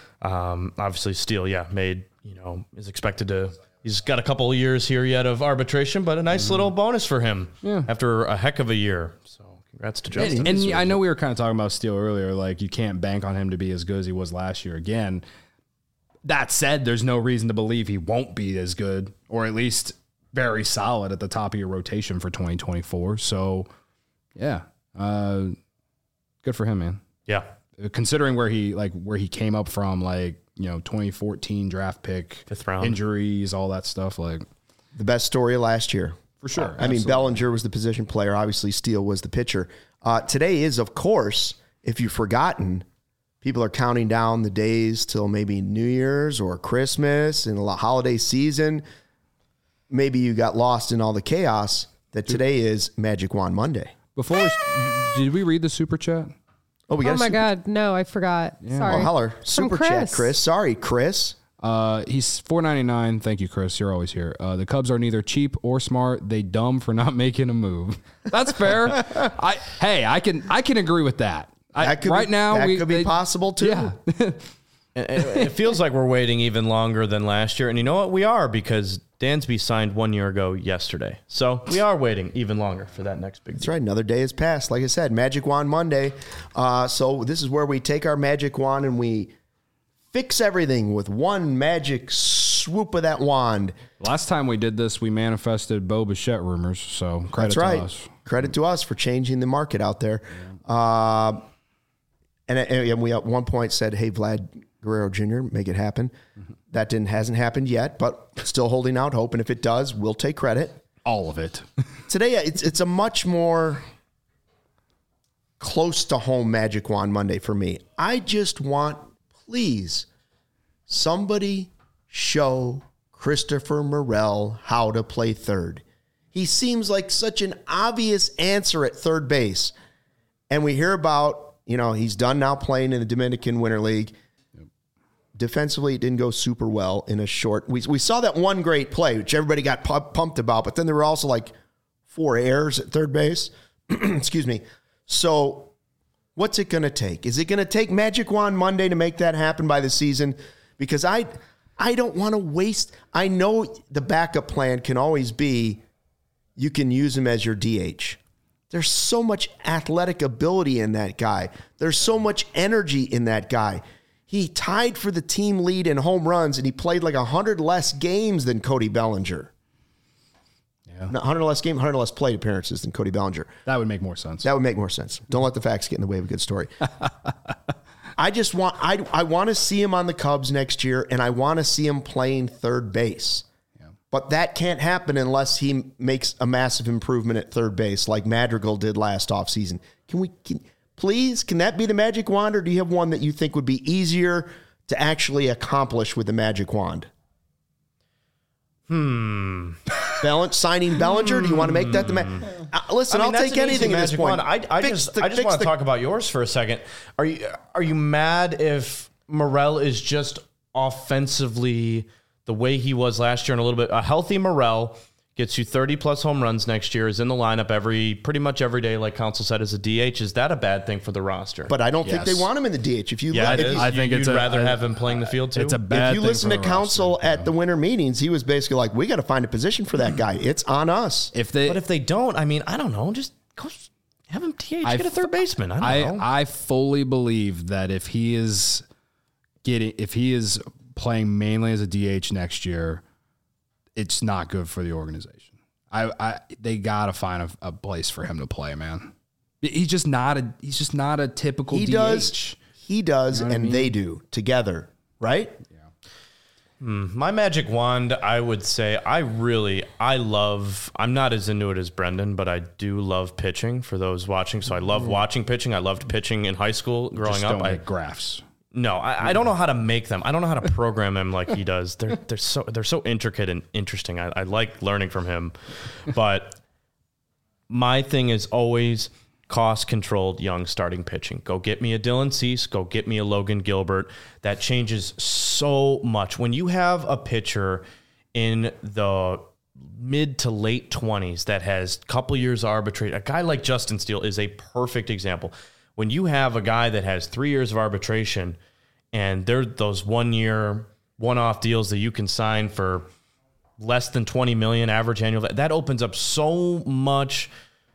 Um, obviously, Steele, yeah, made, you know, is expected to, he's got a couple of years here yet of arbitration, but a nice mm-hmm. little bonus for him Yeah. after a heck of a year. So congrats to Justin. And, and I know we were kind of talking about Steele earlier, like you can't bank on him to be as good as he was last year again. That said, there's no reason to believe he won't be as good, or at least very solid at the top of your rotation for twenty twenty-four. So, yeah, uh, good for him, man. Yeah. Considering where he like where he came up from, like, you know, twenty fourteen draft pick, Fifth round. injuries, all that stuff, like The best story of last year. for sure. I mean, absolutely. Bellinger was the position player. Obviously, Steele was the pitcher. Uh, today is, of course, if you've forgotten, people are counting down the days till maybe New Year's or Christmas and the holiday season. Maybe you got lost in all the chaos that today is Magic Wand Monday. Before, we, did we read the super chat? Oh, we got Oh a my super, God. No, I forgot. Sorry. Oh, holler. From Super Chris. chat, Chris. Sorry, Chris. Uh, he's four ninety-nine. Thank you, Chris. You're always here. Uh, the Cubs are neither cheap or smart. They dumb for not making a move. That's fair. I hey, I can I can agree with that. I, That could right be, now, that we, could be they- possible too. Yeah. And it it feels like we're waiting even longer than last year. And you know what? We are, because Dansby signed one year ago yesterday. So we are waiting even longer for that next big That's deal. right. Another day has passed. Like I said, Magic Wand Monday. Uh, so this is where we take our magic wand and we fix everything with one magic swoop of that wand. Last time we did this, we manifested Bo Bichette rumors. So credit That's right. to us. Credit to us for changing the market out there. Uh, and, and we at one point said, "Hey, Vlad Guerrero Junior, make it happen." Mm-hmm. That didn't hasn't happened yet, but still holding out hope. And if it does, we'll take credit. All of it. Today, it's it's a much more close to home Magic Wand Monday for me. I just want, please, somebody show Christopher Morel how to play third. He seems like such an obvious answer at third base. And we hear about, you know, he's done now playing in the Dominican Winter League. Yep. Defensively, it didn't go super well in a short. We, we saw that one great play, which everybody got pu- pumped about, but then there were also like four errors at third base. Excuse me. So what's it going to take? Is it going to take Magic Wand Monday to make that happen by the season? Because I, I don't want to waste. I know the backup plan can always be you can use him as your D H. There's so much athletic ability in that guy. There's so much energy in that guy. He tied for the team lead in home runs, and he played like one hundred less games than Cody Bellinger. Yeah. one hundred less game, one hundred less plate appearances than Cody Bellinger. That would make more sense. That would make more sense. Don't let the facts get in the way of a good story. I just want I I want to see him on the Cubs next year, and I want to see him playing third base. Yeah. But that can't happen unless he makes a massive improvement at third base, like Madrigal did last offseason. Can we can, please? Can that be the magic wand, or do you have one that you think would be easier to actually accomplish with the magic wand? Hmm. Bell- signing Bellinger? Do you want to make that the ma- uh, listen? I mean, I'll take anything at this point. One. I, I Fix just, the- I just fix want to the- talk about yours for a second. Are you, are you mad if Morel is just offensively the way he was last year and a little bit? A healthy Morel gets you thirty plus home runs next year, is in the lineup every pretty much every day, like Council said, as a D H. Is that a bad thing for the roster? But I don't Yes. think they want him in the D H. If you yeah, look, it if is. you, I think You'd it's a- rather I- have him playing the field too. It's a bad if you thing listen for to the Council roster, at yeah. the winter meetings, he was basically like, "We got to find a position for that guy. It's on us." If they, But if they don't, I mean, I don't know. Just go have him D H. I Get a third baseman. I don't I, know. I fully believe that if he is getting, if he is playing mainly as a D H next year, it's not good for the organization. I, I they gotta find a, a place for him to play, man. He's just not a, he's just not a typical He D H. does, he does, You know what I and mean? they do together, right? My magic wand, I would say, I really, I love, I'm not as into it as Brendan, but I do love pitching for those watching. So I love watching pitching. I loved pitching in high school growing Just up. don't I, make graphs. no, I, I don't know how to make them. I don't know how to program them like he does. They're, they're so, they're so intricate and interesting. I, I like learning from him, but my thing is always cost-controlled young starting pitching. Go get me a Dylan Cease. Go get me a Logan Gilbert. That changes so much. When you have a pitcher in the mid to late twenties that has a couple years arbitrate, a guy like Justin Steele is a perfect example. When you have a guy that has three years of arbitration and they're those one-year, one-off deals that you can sign for less than twenty million dollars average annual, that opens up so much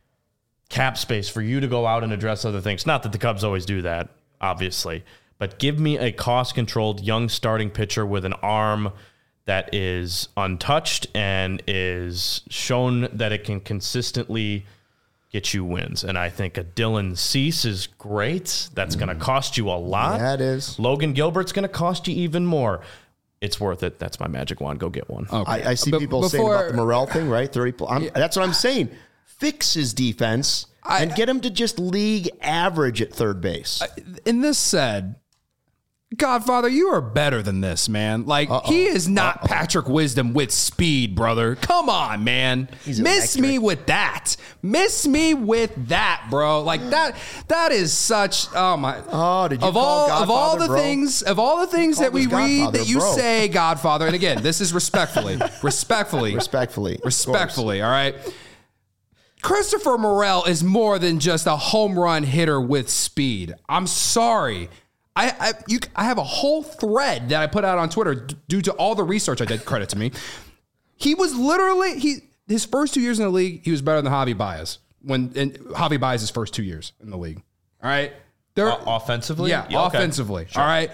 cap space for you to go out and address other things. Not that the Cubs always do that, obviously, but give me a cost-controlled young starting pitcher with an arm that is untouched and is shown that it can consistently get you wins. And I think a Dylan Cease is great. That's going to cost you a lot. Yeah, it is. Logan Gilbert's going to cost you even more. It's worth it. That's my magic wand. Go get one. Okay. I, I see But people saying before- about the Morel thing, right? thirty. pl- I'm, That's what I'm saying. Fix his defense I- and get him to just league average at third base. In this said, Godfather, you are better than this, man. Like, Uh-oh. he is not Uh-oh. Patrick Wisdom with speed, brother. Come on, man. He's Miss electric. me with that. Miss me with that, bro. Like that. That is such. Oh my. Oh, did you of call all of all Godfather, the bro? things of all the things that called we us read Godfather, that you bro. say, Godfather, and again, this is respectfully, respectfully, Respectfully. of course. respectfully. All right. Christopher Morel is more than just a home run hitter with speed. I'm sorry. I I, you, I have a whole thread that I put out on Twitter d- due to all the research I did. Credit to me. He was literally he his first two years in the league. He was better than Javi Baez when and Javi Baez's first two years in the league. All right, there O- offensively? yeah, Yeah, okay. offensively. Sure. All right.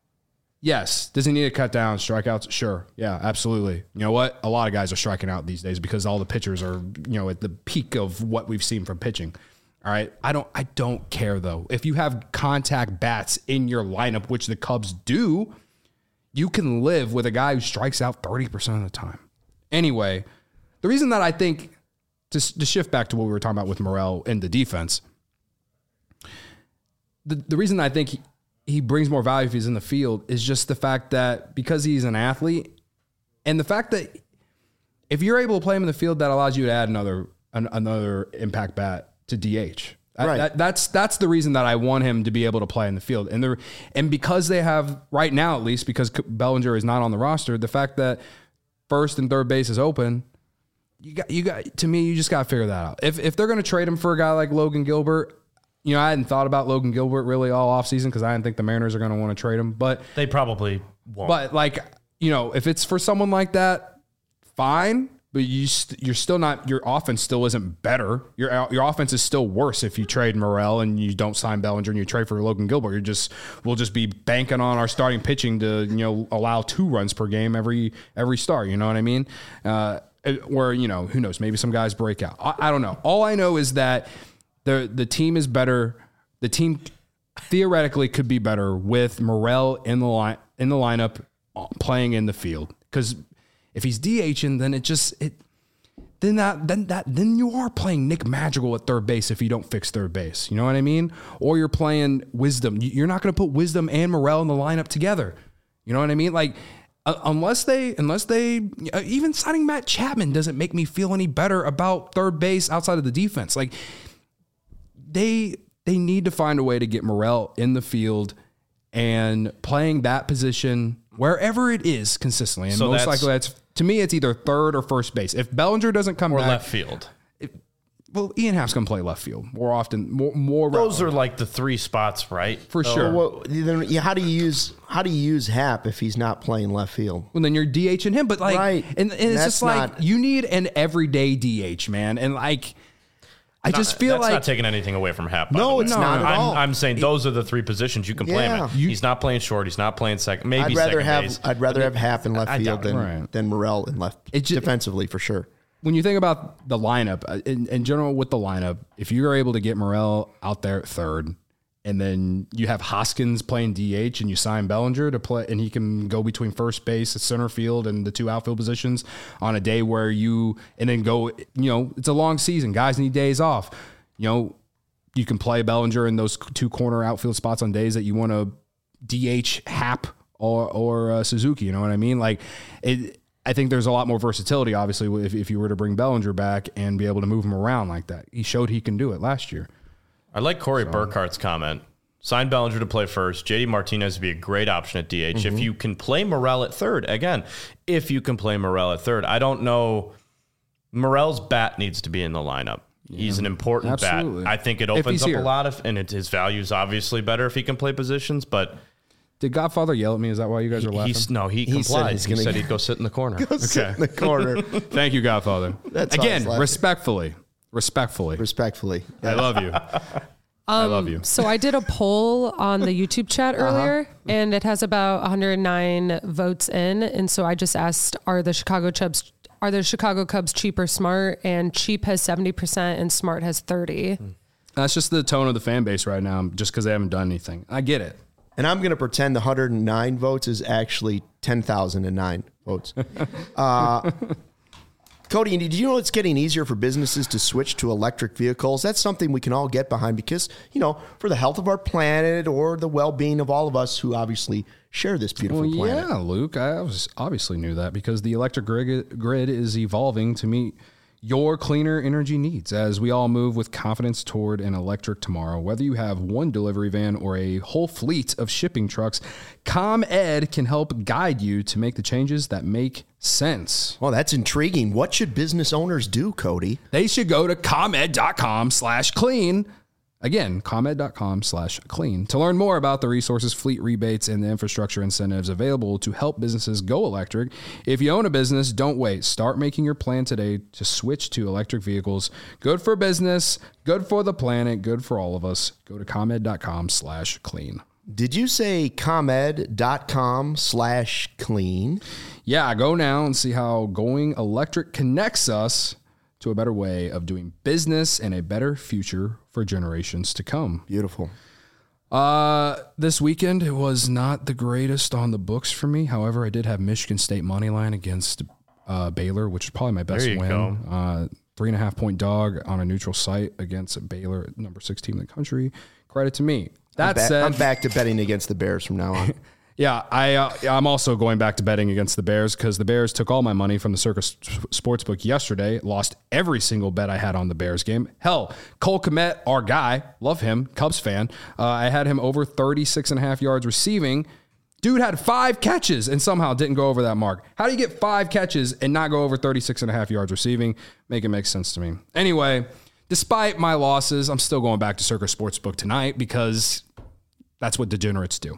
Yes. Does he need to cut down strikeouts? Sure. Yeah, absolutely. You know what? A lot of guys are striking out these days because all the pitchers are, you know, at the peak of what we've seen from pitching. All right. I don't I don't care though. If you have contact bats in your lineup, which the Cubs do, you can live with a guy who strikes out thirty percent of the time. Anyway, the reason that I think to, to shift back to what we were talking about with Morel and the defense, the, the reason I think he, he brings more value if he's in the field is just the fact that because he's an athlete and the fact that if you're able to play him in the field, that allows you to add another an, another impact bat to D H. That- Right. that- that's that's the reason that I want him to be able to play in the field. And there and because they have right now, at least because Bellinger is not on the roster, the fact that first and third base is open, you got you got to me, you just got to figure that out. If if they're going to trade him for a guy like Logan Gilbert, you know, I hadn't thought about Logan Gilbert really all offseason because I didn't think the Mariners are going to want to trade him. But They probably won't. but like, you know, if it's for someone like that, fine. but you st- you're still not. Your offense still isn't better. Your your offense is still worse if you trade Morel and you don't sign Bellinger and you trade for Logan Gilbert. You're just we'll just be banking on our starting pitching to you know allow two runs per game every every start. You know what I mean? Uh, or you know who knows? Maybe some guys break out. I, I don't know. All I know is that the the team is better. The team theoretically could be better with Morel in the line in the lineup playing in the field because. If he's DHing, then it just it then that then that then you are playing Nick Madrigal at third base if you don't fix third base. You know what I mean? Or you're playing Wisdom. You're not going to put Wisdom and Morel in the lineup together. You know what I mean? Like uh, unless they unless they uh, even signing Matt Chapman doesn't make me feel any better about third base outside of the defense. Like they they need to find a way to get Morel in the field and playing that position wherever it is consistently. And So most that's- likely that's, to me, it's either third or first base. If Bellinger doesn't come Or back. left field. Well, Ian Happ's going to play left field more often, more, more Those are like the three spots, right? for sure. Well, Well, then, yeah, how do you use how do you use Hap if he's not playing left field? then you're DHing him. But like, Right. and, and it's That's just like, not- you need an everyday D H, man. And like, I just feel That's like. not taking anything away from Hap. by No, the way. it's not at I'm, all. I'm saying those are the three positions you can play him Yeah. at. You- He's not playing short. He's not playing second. Maybe I'd rather second have base. I'd rather have Hap in left I field doubt it. than Right. than Morel in left It ju- defensively for sure. when you think about the lineup, uh, in, in general with the lineup, if you're able to get Morel out there at third, and then you have Hoskins playing D H, and you sign Bellinger to play, and he can go between first base, center field, and the two outfield positions on a day where you, and then go, you know, it's a long season. Guys need days off. You know, you can play Bellinger in those two corner outfield spots on days that you want to D H Hap or or uh, Suzuki. You know what I mean? Like it. I think there's a lot more versatility, obviously, if, if you were to bring Bellinger back and be able to move him around like that. He showed he can do it last year. I like Corey Burkhart's comment. Sign Bellinger to play first. J D Martinez would be a great option at D H. Mm-hmm. If you can play Morel at third, again, if you can play Morel at third, I don't know. Morel's bat needs to be in the lineup. He's an important Absolutely. bat. I think it If opens he's up here. a lot of, and it, his value is obviously better if he can play positions, but Did Godfather yell at me? Is that why you guys are laughing? he's no, he, He said complied. he's He gonna said get- he'd go sit in the corner. Sit in the corner. Thank you, Godfather. That's all I Again, was laughing. respectfully. Respectfully. Respectfully. I love you. I love you. So I did a poll on the YouTube chat earlier, and it has about one hundred nine votes in. And so I just asked, are the Chicago Cubs are the Chicago Cubs cheap or smart? And cheap has seventy percent and smart has thirty. That's just the tone of the fan base right now, just because they haven't done anything. I get it. And I'm going to pretend the one hundred nine votes is actually ten thousand nine votes. Uh, Cody, did you know it's getting easier for businesses to switch to electric vehicles? That's something we can all get behind because, you know, for the health of our planet or the well-being of all of us who obviously share this beautiful Well, planet. yeah, Luke, I was obviously knew that because the electric grid, grid is evolving to meet your cleaner energy needs as we all move with confidence toward an electric tomorrow. Whether you have one delivery van or a whole fleet of shipping trucks, ComEd can help guide you to make the changes that make sense. Well, that's intriguing. What should business owners do, Cody? They should go to ComEd.com slash clean. Again, ComEd.com slash clean to learn more about the resources, fleet rebates, and the infrastructure incentives available to help businesses go electric. If you own a business, don't wait. Start making your plan today to switch to electric vehicles. Good for business, good for the planet, good for all of us. Go to ComEd.com slash clean. Did you say ComEd.com slash clean? Yeah, go now and see how going electric connects us to a better way of doing business and a better future for generations to come. Beautiful. Uh, this weekend, it was not the greatest on the books for me. However, I did have Michigan State money line against uh, Baylor, which is probably my best There you win. go. Uh, three and a half point dog on a neutral site against Baylor, number six team in the country. Credit to me. That I'm ba- said, I'm back to betting against the Bears from now on. yeah, I uh, I'm also going back to betting against the Bears because the Bears took all my money from the Circus Sportsbook yesterday. Lost every single bet I had on the Bears game. Hell, Cole Kmet, our guy, love him, Cubs fan. Uh, I had him over thirty-six and a half yards receiving. Dude had five catches and somehow didn't go over that mark. How do you get five catches and not go over thirty-six and a half yards receiving? Make it make sense to me. Anyway, despite my losses, I'm still going back to Circus Sportsbook tonight because That's what degenerates do.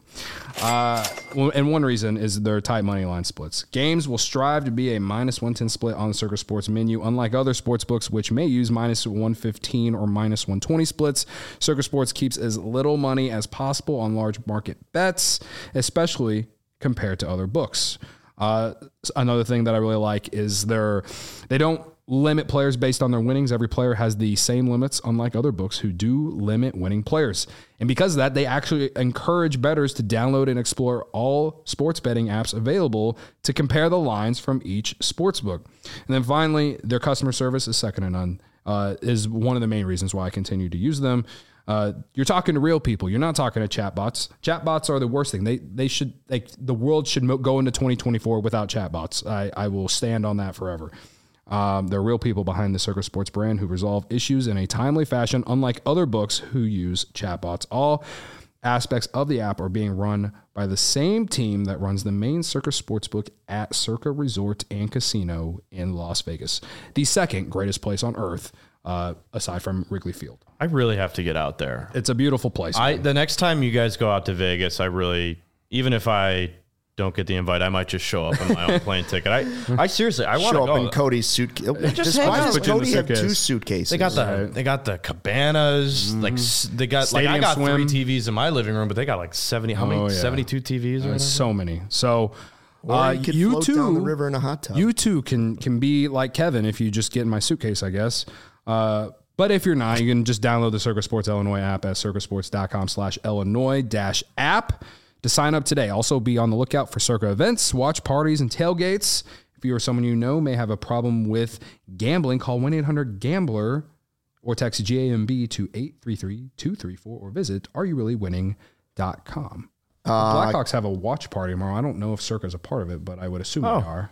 Uh, well, and one reason is their tight money line splits. Games will strive to be a minus one ten split on the Circa Sports menu, unlike other sports books, which may use minus one fifteen or minus one twenty splits. Circa Sports keeps as little money as possible on large market bets, especially compared to other books. Uh, another thing that I really like is their, they don't limit players based on their winnings. Every player has the same limits, unlike other books who do limit winning players. And because of that, they actually encourage bettors to download and explore all sports betting apps available to compare the lines from each sports book. And then finally, their customer service is second to none, uh, is one of the main reasons why I continue to use them. Uh, you're talking to real people. You're not talking to chatbots. Chatbots are the worst thing. They they should like the world should mo- go into twenty twenty-four without chatbots. I, I will stand on that forever. Um, there are real people behind the Circa Sports brand who resolve issues in a timely fashion, unlike other books who use chatbots. All aspects of the app are being run by the same team that runs the main Circa Sportsbook at Circa Resort and Casino in Las Vegas, the second greatest place on earth, uh, aside from Wrigley Field. I really have to get out there. It's a beautiful place. I the next time you guys go out to Vegas, I really, even if I don't get the invite, I might just show up on my own plane ticket. I, I seriously, I want to Show go. up in Cody's suitcase. Just Why hang does out. Cody have Suitcase. two suitcases? They got the they got the cabanas, like s- they got Stadium like I got swim. three T Vs in my living room, but they got like seventy. How many? Oh, yeah. Seventy-two T Vs. Or There's whatever? so many. So Or uh, you could you float too, down the river in a hot tub. You too can can be like Kevin if you just get in my suitcase, I guess. Uh, but if you're not, you can just download the Circa Sports Illinois app at circasports.com slash Illinois dash app to sign up today. Also be on the lookout for Circa events, watch parties, and tailgates. If you or someone you know may have a problem with gambling, call one eight hundred gambler or text G A M B to eight three three two three four or visit are you really winning dot com. The Blackhawks have a watch party tomorrow. I don't know if Circa's a part of it, but I would assume Oh. they are.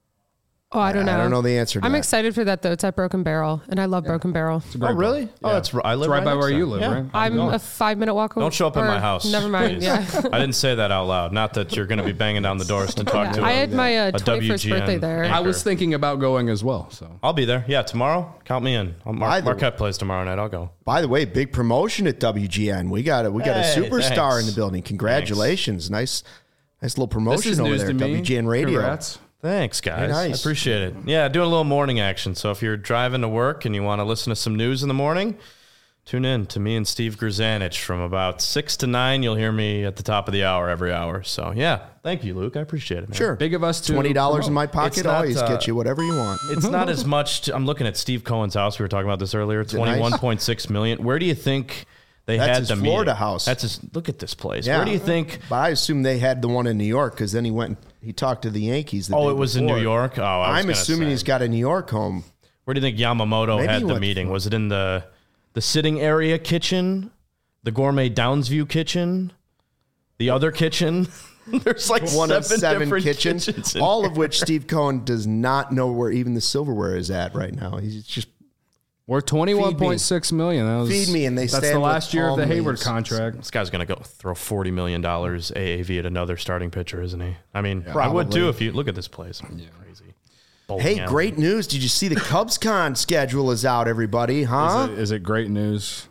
Oh, I don't know. I don't know the answer to I'm that. excited for that though. It's at Broken Barrel, and I love Broken Barrel. Oh, really? Oh, that's I live It's right by next where to you it. live, Yeah. right? I'm a five minute walk away. Don't show up at or- my house. Never mind. please. Yeah. I didn't say that out loud. Not that you're going to be banging down the doors to talk to. I a- had my uh, a twenty-first W G N birthday there. anchor. I was thinking about going as well. So I'll be there. Yeah, tomorrow. Count me in. I'll Mar- By the- Marquette plays tomorrow night. I'll go. By the way, big promotion at W G N. We got a we got Hey, a superstar thanks. in the building. Congratulations. Nice nice little promotion this is over news there to at me. W G N Radio. Congrats. Thanks, guys. nice. I appreciate it. Yeah, doing a little morning action. So if you're driving to work and you want to listen to some news in the morning, tune in to me and Steve Grzanich from about six to nine. You'll hear me at the top of the hour every hour. So yeah, thank you, Luke. I appreciate it, man. Sure. Big of us to Twenty dollars in my It's pocket. not, Always uh, get you whatever you want. It's not as much. To, I'm looking at Steve Cohen's house. We were talking about this earlier. it nice? twenty-one point six million. Where do you think they That's had his the Florida meeting? house. That's his. Look at this place. Yeah. Where do you think? But I assume they had the one in New York because then he went and he talked to the Yankees. The Oh, day it was in before. New York. Oh, I was I'm gonna assuming say. he's got a New York home. Where do you think Yamamoto Maybe he had the went meeting? for- Was it in the the sitting area kitchen, the gourmet Downsview kitchen, the other kitchen? There's like One seven, of seven different kitchens, kitchens in all here. of which Steve Cohen does not know where even the silverware is at right now. He's just We're twenty-one point six million. That was, Feed me and they That's stand the with last year of the palm Hayward leaves. contract. This guy's gonna go throw forty million dollars A A V at another starting pitcher, isn't he? I mean, I Probably. would too if you look at this place. Crazy. Bowling Hey, alley. great news. Did you see the CubsCon schedule is out, everybody? Huh? Is it, is it great news?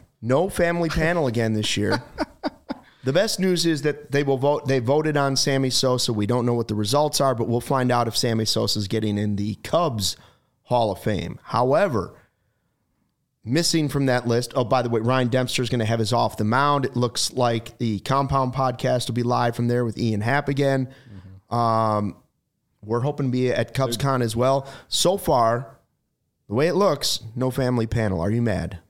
No family panel again this year. The best news is that they will vote. They voted on Sammy Sosa. We don't know what the results are, but we'll find out if Sammy Sosa is getting in the Cubs Hall of Fame. However, missing from that list. Oh, by the way, Ryan Dempster is going to have his off the mound. It looks like the Compound Podcast will be live from there with Ian Happ again. Mm-hmm. Um, we're hoping to be at CubsCon as well. So far, the way it looks, no family panel. Are you mad?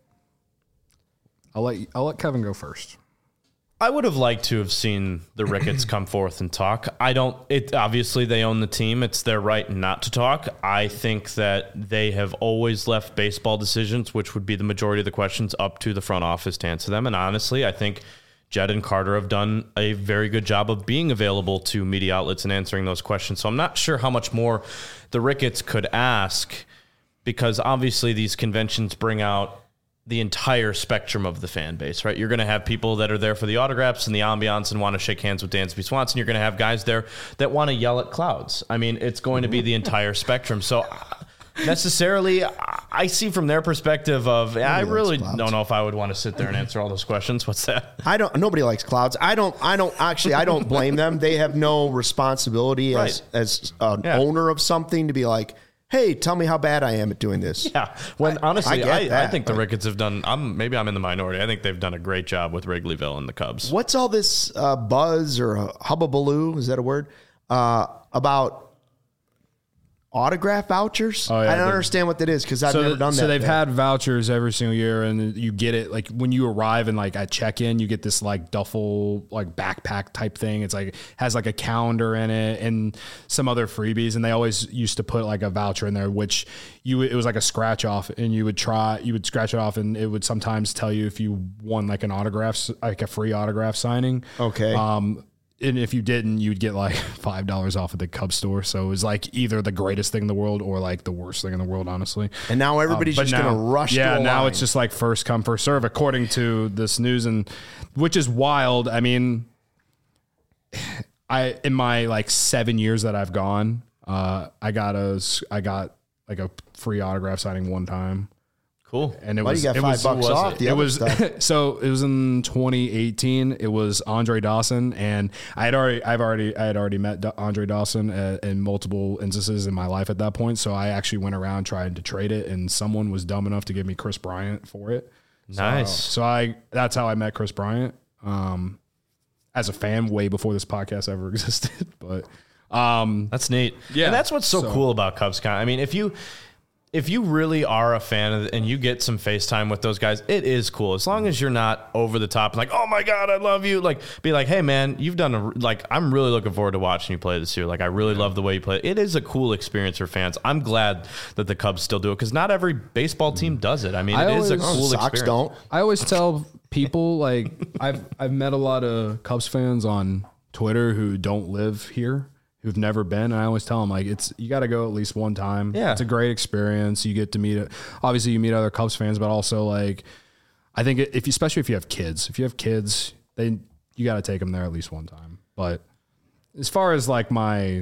I'll let you, I'll let Kevin go first. I would have liked to have seen the Ricketts come forth and talk. I don't, it obviously they own the team. It's their right not to talk. I think that they have always left baseball decisions, which would be the majority of the questions, up to the front office to answer them. And honestly, I think Jed and Carter have done a very good job of being available to media outlets and answering those questions. So I'm not sure how much more the Ricketts could ask, because obviously these conventions bring out the entire spectrum of the fan base, right? You're going to have people that are there for the autographs and the ambiance and want to shake hands with Dansby Swanson. You're going to have guys there that want to yell at clouds. I mean, it's going to be the entire spectrum. So necessarily, I see from their perspective of, I likes really clouds. don't know if I would want to sit there and answer all those questions. What's that? I don't. Nobody likes clouds. I don't. I don't actually. I don't blame them. They have no responsibility as Right. as an Yeah. owner of something to be like, hey, tell me how bad I am at doing this. Yeah. When honestly, I get I, I, that, think the but- Ricketts have done. I'm maybe I'm in the minority. I think they've done a great job with Wrigleyville and the Cubs. What's all this uh, buzz or uh, hubbubaloo? Is that a word? Uh, about autograph vouchers? Oh, yeah, I don't the- understand what that is because I've so never th- done that. So they've yet. had vouchers every single year, and you get it like when you arrive and like at check-in, you get this like duffel like backpack type thing. It's like has like a calendar in it and some other freebies, and they always used to put like a voucher in there, which you it was like a scratch off, and you would try you would scratch it off, and it would sometimes tell you if you won like an autograph s- like a free autograph signing. Okay. Um, and if you didn't, you'd get like five dollars off at the Cub store. So it was like either the greatest thing in the world or like the worst thing in the world, honestly. And now everybody's Um, but just now- going to rush Yeah, to a now line. it's just like first come, first serve, according to this news, and which is wild. I mean, I in my like seven years that I've gone, uh, I got a I got like a free autograph signing one time. Cool. And it Why was you got it five was, bucks was off it? the it other was stuff? so it was in twenty eighteen. It was Andre Dawson, and I had already I've already I had already met Da- Andre Dawson uh, in multiple instances in my life at that point. So I actually went around trying to trade it, and someone was dumb enough to give me Chris Bryant for it. Nice. So I that's how I met Chris Bryant um, as a fan way before this podcast ever existed. But um, That's neat. Yeah. And that's what's so, So- cool about CubsCon. I mean, if you if you really are a fan of it and you get some FaceTime with those guys, it is cool. As long as you're not over the top and like, oh my God, I love you. Like, be like, hey man, you've done a, like, I'm really looking forward to watching you play this year. Like, I really love the way you play. It is a cool experience for fans. I'm glad that the Cubs still do it because not every baseball team does it. I mean, I it is a always- cool Sox experience. don't. I always tell people like I've I've met a lot of Cubs fans on Twitter who don't live here, who've never been, and I always tell them like it's you got to go at least one time. Yeah. It's a great experience. You get to meet obviously you meet other Cubs fans, but also like I think if you especially if you have kids, if you have kids, they you got to take them there at least one time. But as far as like my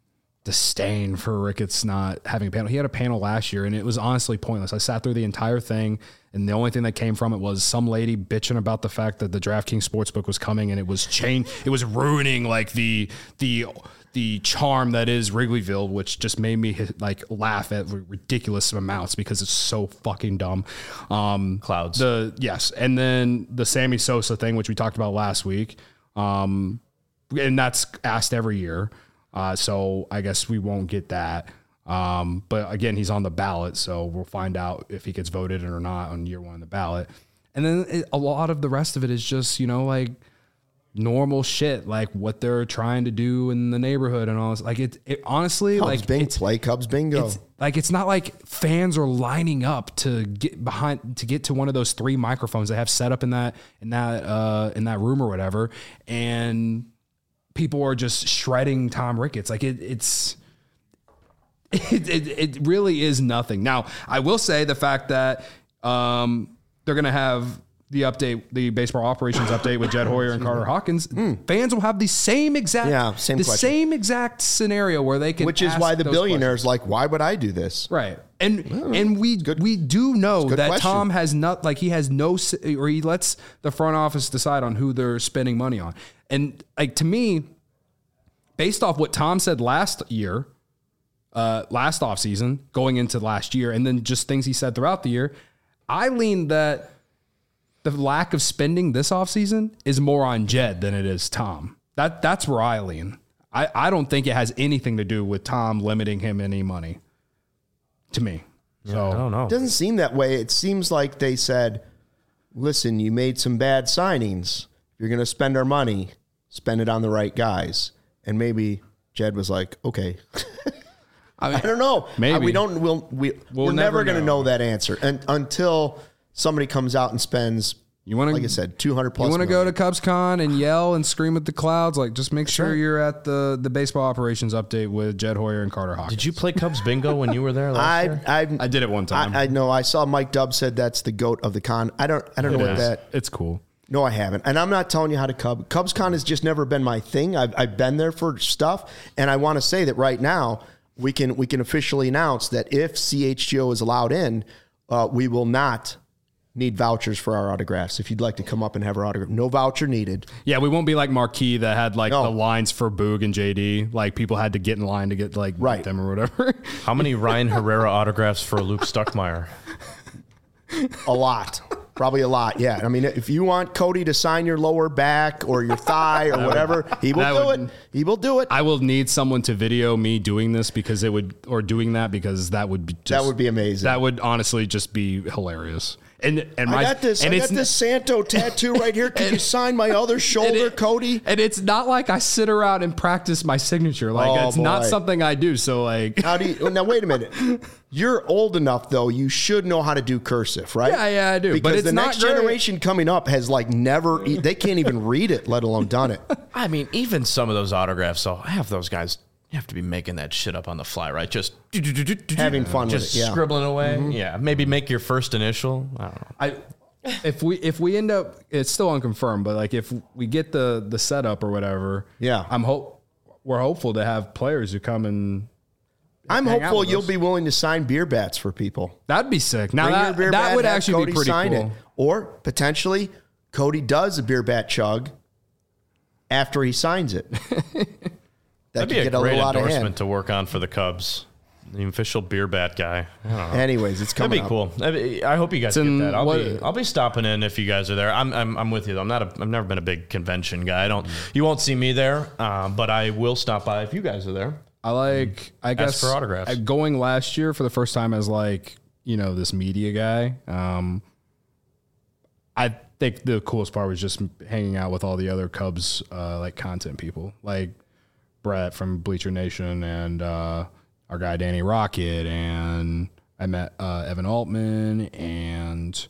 disdain for Ricketts not having a panel. He had a panel last year, and it was honestly pointless. I sat through the entire thing, and the only thing that came from it was some lady bitching about the fact that the DraftKings Sportsbook was coming, and it was chain. It was ruining like the the the charm that is Wrigleyville, which just made me like laugh at ridiculous amounts because it's so fucking dumb. Um, Clouds. The yes, and then the Sammy Sosa thing, which we talked about last week, um, and that's asked every year. Uh, so I guess we won't get that. Um, but again, he's on the ballot, so we'll find out if he gets voted in or not on year one on the ballot. And then it, a lot of the rest of it is just, you know, like normal shit, like what they're trying to do in the neighborhood and all this. Like it, it honestly, Cubs like bing, it's, play Cubs bingo. it's like it's not like fans are lining up to get behind to get to one of those three microphones they have set up in that in that uh, in that room or whatever, and people are just shredding Tom Ricketts. Like it, it's it, it it really is nothing. Now I will say the fact that um, they're going to have the update, the baseball operations update with Jed Hoyer and Carter Hawkins. Fans will have the same exact, Yeah, same the question. same exact scenario where they can, Which is ask why the those billionaire's like, why would I do this? Right. And and we we do know good that question. Tom has not like he has no s- or he lets the front office decide on who they're spending money on. And like to me, based off what Tom said last year, uh, last offseason, going into last year, and then just things he said throughout the year, I lean that the lack of spending this offseason is more on Jed than it is Tom. That that's where I lean. I, I don't think it has anything to do with Tom limiting him any money. To me. So I don't know. It doesn't seem that way. It seems like they said, listen, you made some bad signings. If you're going to spend our money, spend it on the right guys. And maybe Jed was like, okay. I, mean, I don't know. Maybe. Uh, we don't, we'll, we, We'll we're never, never going to know. know that answer and, until somebody comes out and spends, You want to, like I said, two hundred plus You want to go million. to CubsCon and yell and scream at the clouds? Like, just make sure right. you're at the the baseball operations update with Jed Hoyer and Carter Hawkins. Did you play Cubs bingo when you were there last I, year? I, I did it one time. I, I know. I saw Mike Dubb said that's the goat of the con. I don't. I don't know It what is. that. It's cool. No, I haven't, and I'm not telling you how to Cub. CubsCon has just never been my thing. I've, I've been there for stuff, and I want to say that right now, we can we can officially announce that if C H G O is allowed in, uh, we will not need vouchers for our autographs. If you'd like to come up and have our autograph, no voucher needed. Yeah, we won't be like Marquee that had like No. the lines for Boog and J D. Like people had to get in line to get like Right. them or whatever. How many Ryan Herrera autographs for Luke Stuckmeyer? A lot. Probably a lot, yeah. I mean, if you want Cody to sign your lower back or your thigh or whatever, he will that do would- it. He will do it. I will need someone to video me doing this because it would, or doing that because that would be just, That would be amazing. That would honestly just be hilarious. And and my I got this. and I it's got this Santo tattoo right here. Can you sign my other shoulder, it- Cody? And it's not like I sit around and practice my signature. Like Oh, it's not boy. something I do. So like, How do you? Now wait a minute. You're old enough though. You should know how to do cursive, right? Yeah, yeah, I do. Because But it's the not next great. generation coming up has like never. e- They can't even read it, let alone done it. I mean, even some of those autographs, so half those guys, you have to be making that shit up on the fly, right? Just Having fun with just it, yeah. scribbling away. Yeah, maybe make your first initial. I don't know. I if we if we end up, it's still unconfirmed, but like if we get the the setup or whatever, Yeah. I'm hope we're hopeful to have players who come and I'm Hang out hopeful with you'll us. be willing to sign beer bats for people. that'd be sick. Now Bring your that, beer that bat, would have actually Cody be pretty sign cool. it. Or potentially, Cody does a beer bat chug after he signs it. That That'd could be a get a great little out of endorsement hand. to work on for the Cubs. The official beer bat guy. I don't know. Anyways, it's That'd coming be up. cool. That'd be- I hope you guys in get that. I'll what- be I'll be stopping in if you guys are there. I'm I'm, I'm with you though. I'm not a I've never been a big convention guy. I don't. You won't see me there, um, but I will stop by if you guys are there. I like, I guess, for autographs. uh, going last year for the first time as like, you know, this media guy. Um, I think the coolest part was just hanging out with all the other Cubs, uh, like content people, like Brett from Bleacher Nation and uh, our guy Danny Rocket, and I met uh, Evan Altman and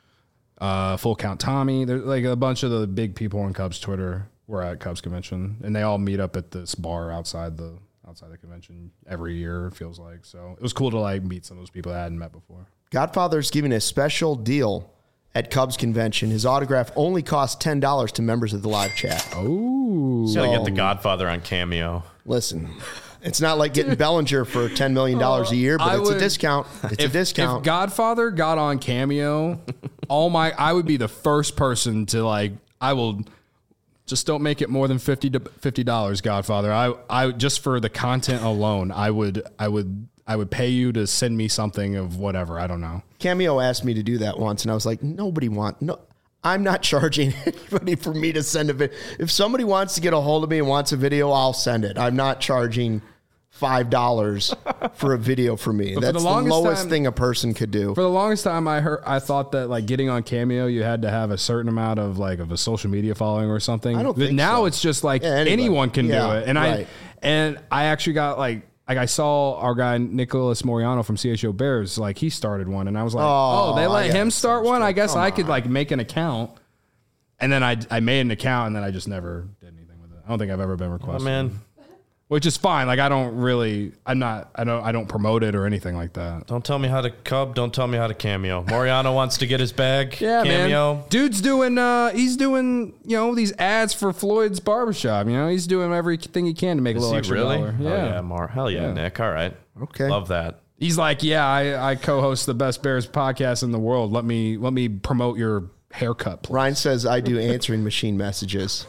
uh, Full Count Tommy. There's like a bunch of the big people on Cubs Twitter were at Cubs convention, and they all meet up at this bar outside the outside the convention every year. It feels like so. It was cool to like meet some of those people I hadn't met before. Godfather's giving a special deal at Cubs convention. His autograph only costs ten dollars to members of the live chat. Oh, Gotta get the Godfather on Cameo. Listen, it's not like getting Bellinger for ten million dollars a year, but I it's a would- discount. It's a discount. If Godfather got on Cameo, all my I would be the first person to like. I will just don't make it more than fifty dollars, Godfather. I I just for the content alone, I would I would I would pay you to send me something of whatever. I don't know. Cameo asked me to do that once, and I was like, nobody want no. I'm not charging anybody for me to send a video. If somebody wants to get a hold of me and wants a video, I'll send it. I'm not charging five dollars for a video for me. for That's the the, longest lowest time- thing a person could do. For the longest time, I heard I thought that like getting on Cameo, you had to have a certain amount of like of a social media following or something. I don't But think now so. it's just like Yeah, anybody. anyone can Yeah, do it. And right. I and I actually got like like I saw our guy Nicholas Moriano from C H O Bears, like he started one, and I was like, Oh, oh, they I let got him it. start one. I guess Come I could on. like make an account. And then I I made an account, and then I just never did anything with it. I don't think I've ever been Oh requested. man, Which is fine. Like I don't really, I'm not, I don't, I don't promote it or anything like that. don't tell me how to Cub. Don't tell me how to Cameo. Moriano wants to get his bag. Yeah, Cameo. man. Dude's doing, uh, he's doing, you know, these ads for Floyd's Barbershop. You know, he's doing everything he can to make a Is little he extra really? dollar. Oh, Yeah. yeah, Mar. Hell yeah, Yeah. Nick. All right. Okay. Love that. He's like, yeah, I, I co-host the best Bears podcast in the world. Let me, let me promote your haircut, please. Ryan says I do answering machine messages.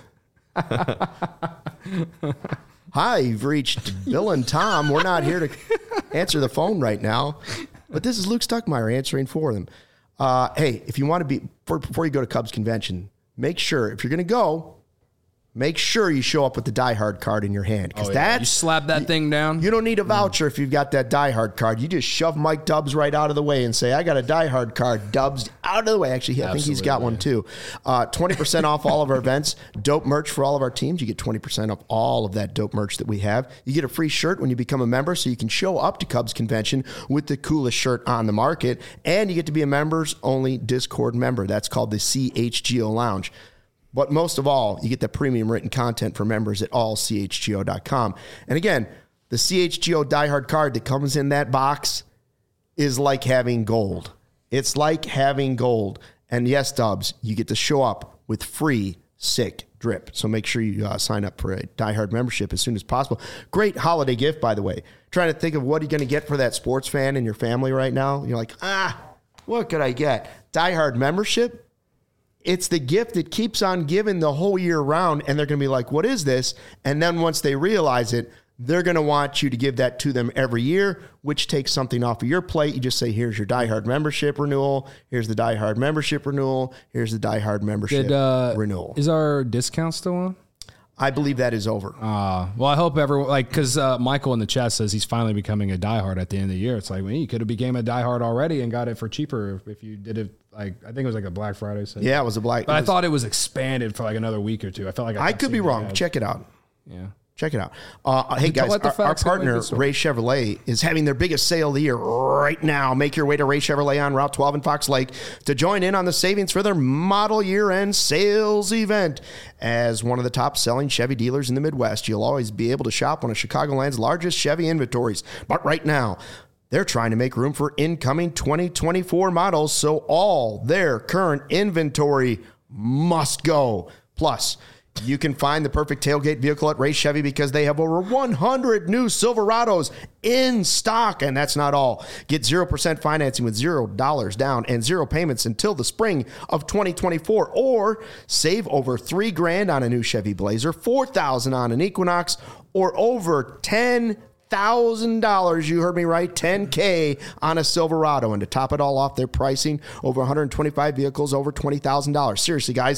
Hi, you've reached Bill and Tom. We're not here to answer the phone right now, but this is Luke Stuckmeyer answering for them. Uh, hey, if you want to be, before, before you go to Cubs convention, make sure, if you're going to go, make sure you show up with the Die Hard card in your hand. Because Oh, yeah. that's You slap that thing down. You don't need a voucher if you've got that Die Hard card. You just shove Mike Dubs right out of the way and say, I got a Die Hard card. Dubs, out of the way. Actually, I think he's got one too. Uh, twenty percent off all of our events. Dope merch for all of our teams. You get twenty percent off all of that dope merch that we have. You get a free shirt when you become a member, so you can show up to Cubs convention with the coolest shirt on the market. And you get to be a members-only Discord member. That's called the C H G O Lounge. But most of all, you get the premium written content for members at all c h g o dot com. And again, the C H G O Die Hard card that comes in that box is like having gold. It's like having gold. And yes, Dubs, you get to show up with free Sick Drip. So make sure you uh, sign up for a Die Hard membership as soon as possible. Great holiday gift, by the way. Trying to think of what you're going to get for that sports fan in your family right now. You're like, ah, what could I get? Die Hard membership? It's the gift that keeps on giving the whole year round, and they're going to be like, what is this? And then once they realize it, they're going to want you to give that to them every year, which takes something off of your plate. You just say, here's your Die Hard membership renewal. Here's the Die Hard membership renewal. Here's the Die Hard membership Did, uh, renewal. Is our discount still on? I believe that is over. Uh, well, I hope everyone, like, because uh, Michael in the chat says he's finally becoming a diehard at the end of the year. It's like, well, you could have became a diehard already and got it for cheaper if, if you did it, like, I think it was like a Black Friday sale. Yeah, it was a Black. But I I thought it was expanded for like another week or two. I felt like I, I could be wrong. Ads. Check it out. Yeah. Check it out. Uh, hey, guys, let the our, our facts go partner, make the story. Ray Chevrolet, is having their biggest sale of the year right now. Make your way to Ray Chevrolet on Route twelve in Fox Lake to join in on the savings for their model year-end sales event. As one of the top-selling Chevy dealers in the Midwest, you'll always be able to shop one of Chicagoland's largest Chevy inventories. But right now, they're trying to make room for incoming twenty twenty-four models, so all their current inventory must go. Plus, you can find the perfect tailgate vehicle at Ray Chevy because they have over one hundred new Silverados in stock. And that's not all. Get zero percent financing with zero dollars down and zero payments until the spring of twenty twenty-four. Or save over three grand on a new Chevy Blazer, four thousand on an Equinox, or over ten thousand dollars, you heard me right, ten K on a Silverado. And to top it all off, they're pricing over one hundred twenty-five vehicles over twenty thousand dollars. Seriously, guys.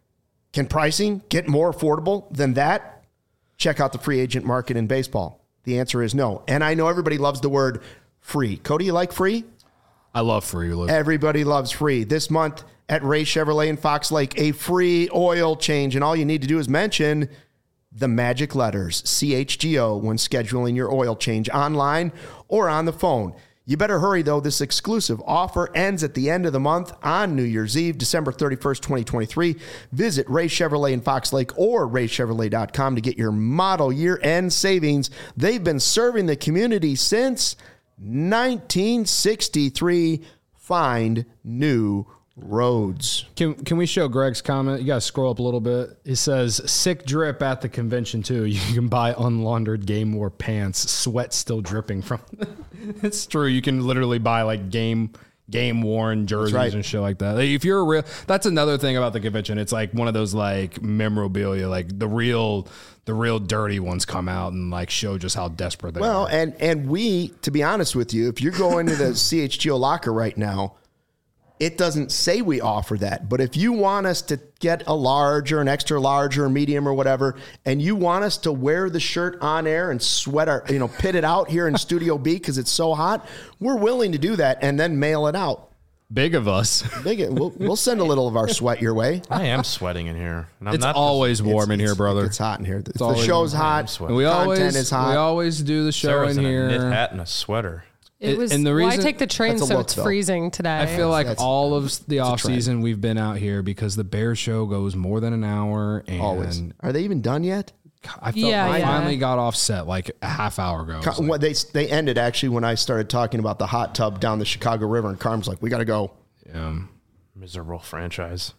Can pricing get more affordable than that? Check out the free agent market in baseball. The answer is no. And I know everybody loves the word free. Cody, you like free? I love free. Luke. Everybody loves free. This month at Ray Chevrolet in Fox Lake, a free oil change. And all you need to do is mention the magic letters C H G O when scheduling your oil change online or on the phone. You better hurry, though. This exclusive offer ends at the end of the month on New Year's Eve, December thirty-first, twenty twenty-three. Visit Ray Chevrolet in Fox Lake or ray chevrolet dot com to get your model year-end savings. They've been serving the community since nineteen sixty-three. Find new roads. Can can we show Greg's comment? You got to scroll up a little bit. It says, sick drip at the convention, too. You can buy unlaundered Game War pants. Sweat still dripping from them. It's true. You can literally buy, like, game game worn jerseys right. and shit like that. Like, if you're a real... That's another thing about the convention. It's, like, one of those, like, memorabilia. Like, the real... The real dirty ones come out and, like, show just how desperate they well, are. Well, and, and we, to be honest with you, if you're going to the C H G O locker right now, it doesn't say we offer that. But if you want us to get a large or an extra large or a medium or whatever, and you want us to wear the shirt on air and sweat our, you know, pit it out here in Studio B because it's so hot, we're willing to do that and then mail it out. Big of us. Big, we'll, we'll send a little of our sweat your way. I am sweating in here. And I'm It's not always warm It's- in here, it's- brother. It's hot in here. The, the always show's warm. hot. sweating. And we Content always is hot. we always do the show Sarah's in in a knit here. hat and a sweater. It It- was. and the well, I reason- take the train, That's a so look, it's though. freezing today. I feel like That's- all of the off trend. season we've been out here because the Bear Show goes more than an hour, and Always. Are they even done yet? I felt Yeah, I yeah. finally got off set like a half hour ago. I was like, What they they ended actually when I started talking about the hot tub down the Chicago River, and Carm's like, "We got to go." um, Miserable franchise.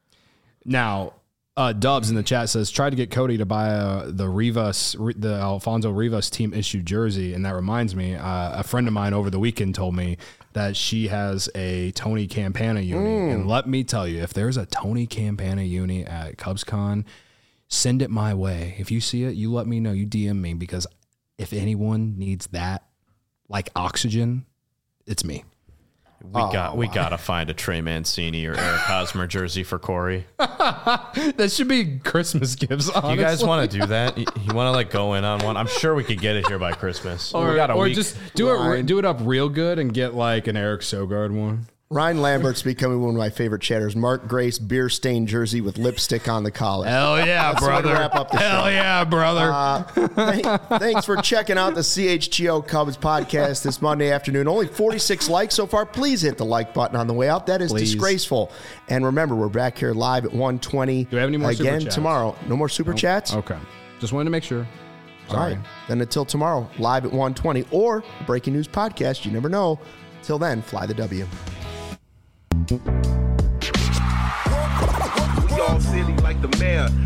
now, uh, Dubs in the chat says try to get Cody to buy uh, the Rivas, the Alfonso Rivas team issued jersey, and that reminds me, uh, a friend of mine over the weekend told me that she has a Tony Campana uni, Mm. and let me tell you, if there's a Tony Campana uni at CubsCon, send it my way. If you see it, you let me know. You D M me because if anyone needs that, like oxygen, it's me. We got we gotta find a Trey Mancini or Eric Hosmer jersey for Corey. That should be Christmas gifts. Honestly. You guys want to do that? You, you want to like go in on one? I'm sure we could get it here by Christmas. or, we got a or week. just do it re- do it up real good and get like an Eric Sogard one. Ryan Lambert's becoming one of my favorite chatters. Mark Grace beer stained jersey with lipstick on the collar. Hell yeah, That's the way to brother! wrap up the Hell show. yeah, brother! Uh, th- thanks for checking out the C H G O Cubs podcast this Monday afternoon. Only forty-six likes so far. Please hit the like button on the way out. That is Please. disgraceful. And remember, we're back here live at one twenty. Do we have any more super again chats? tomorrow? No more super chats? Okay, just wanted to make sure. All right. Then until tomorrow, live at one twenty or a breaking news podcast. You never know. Till then, fly the W. Yo, city like the mayor.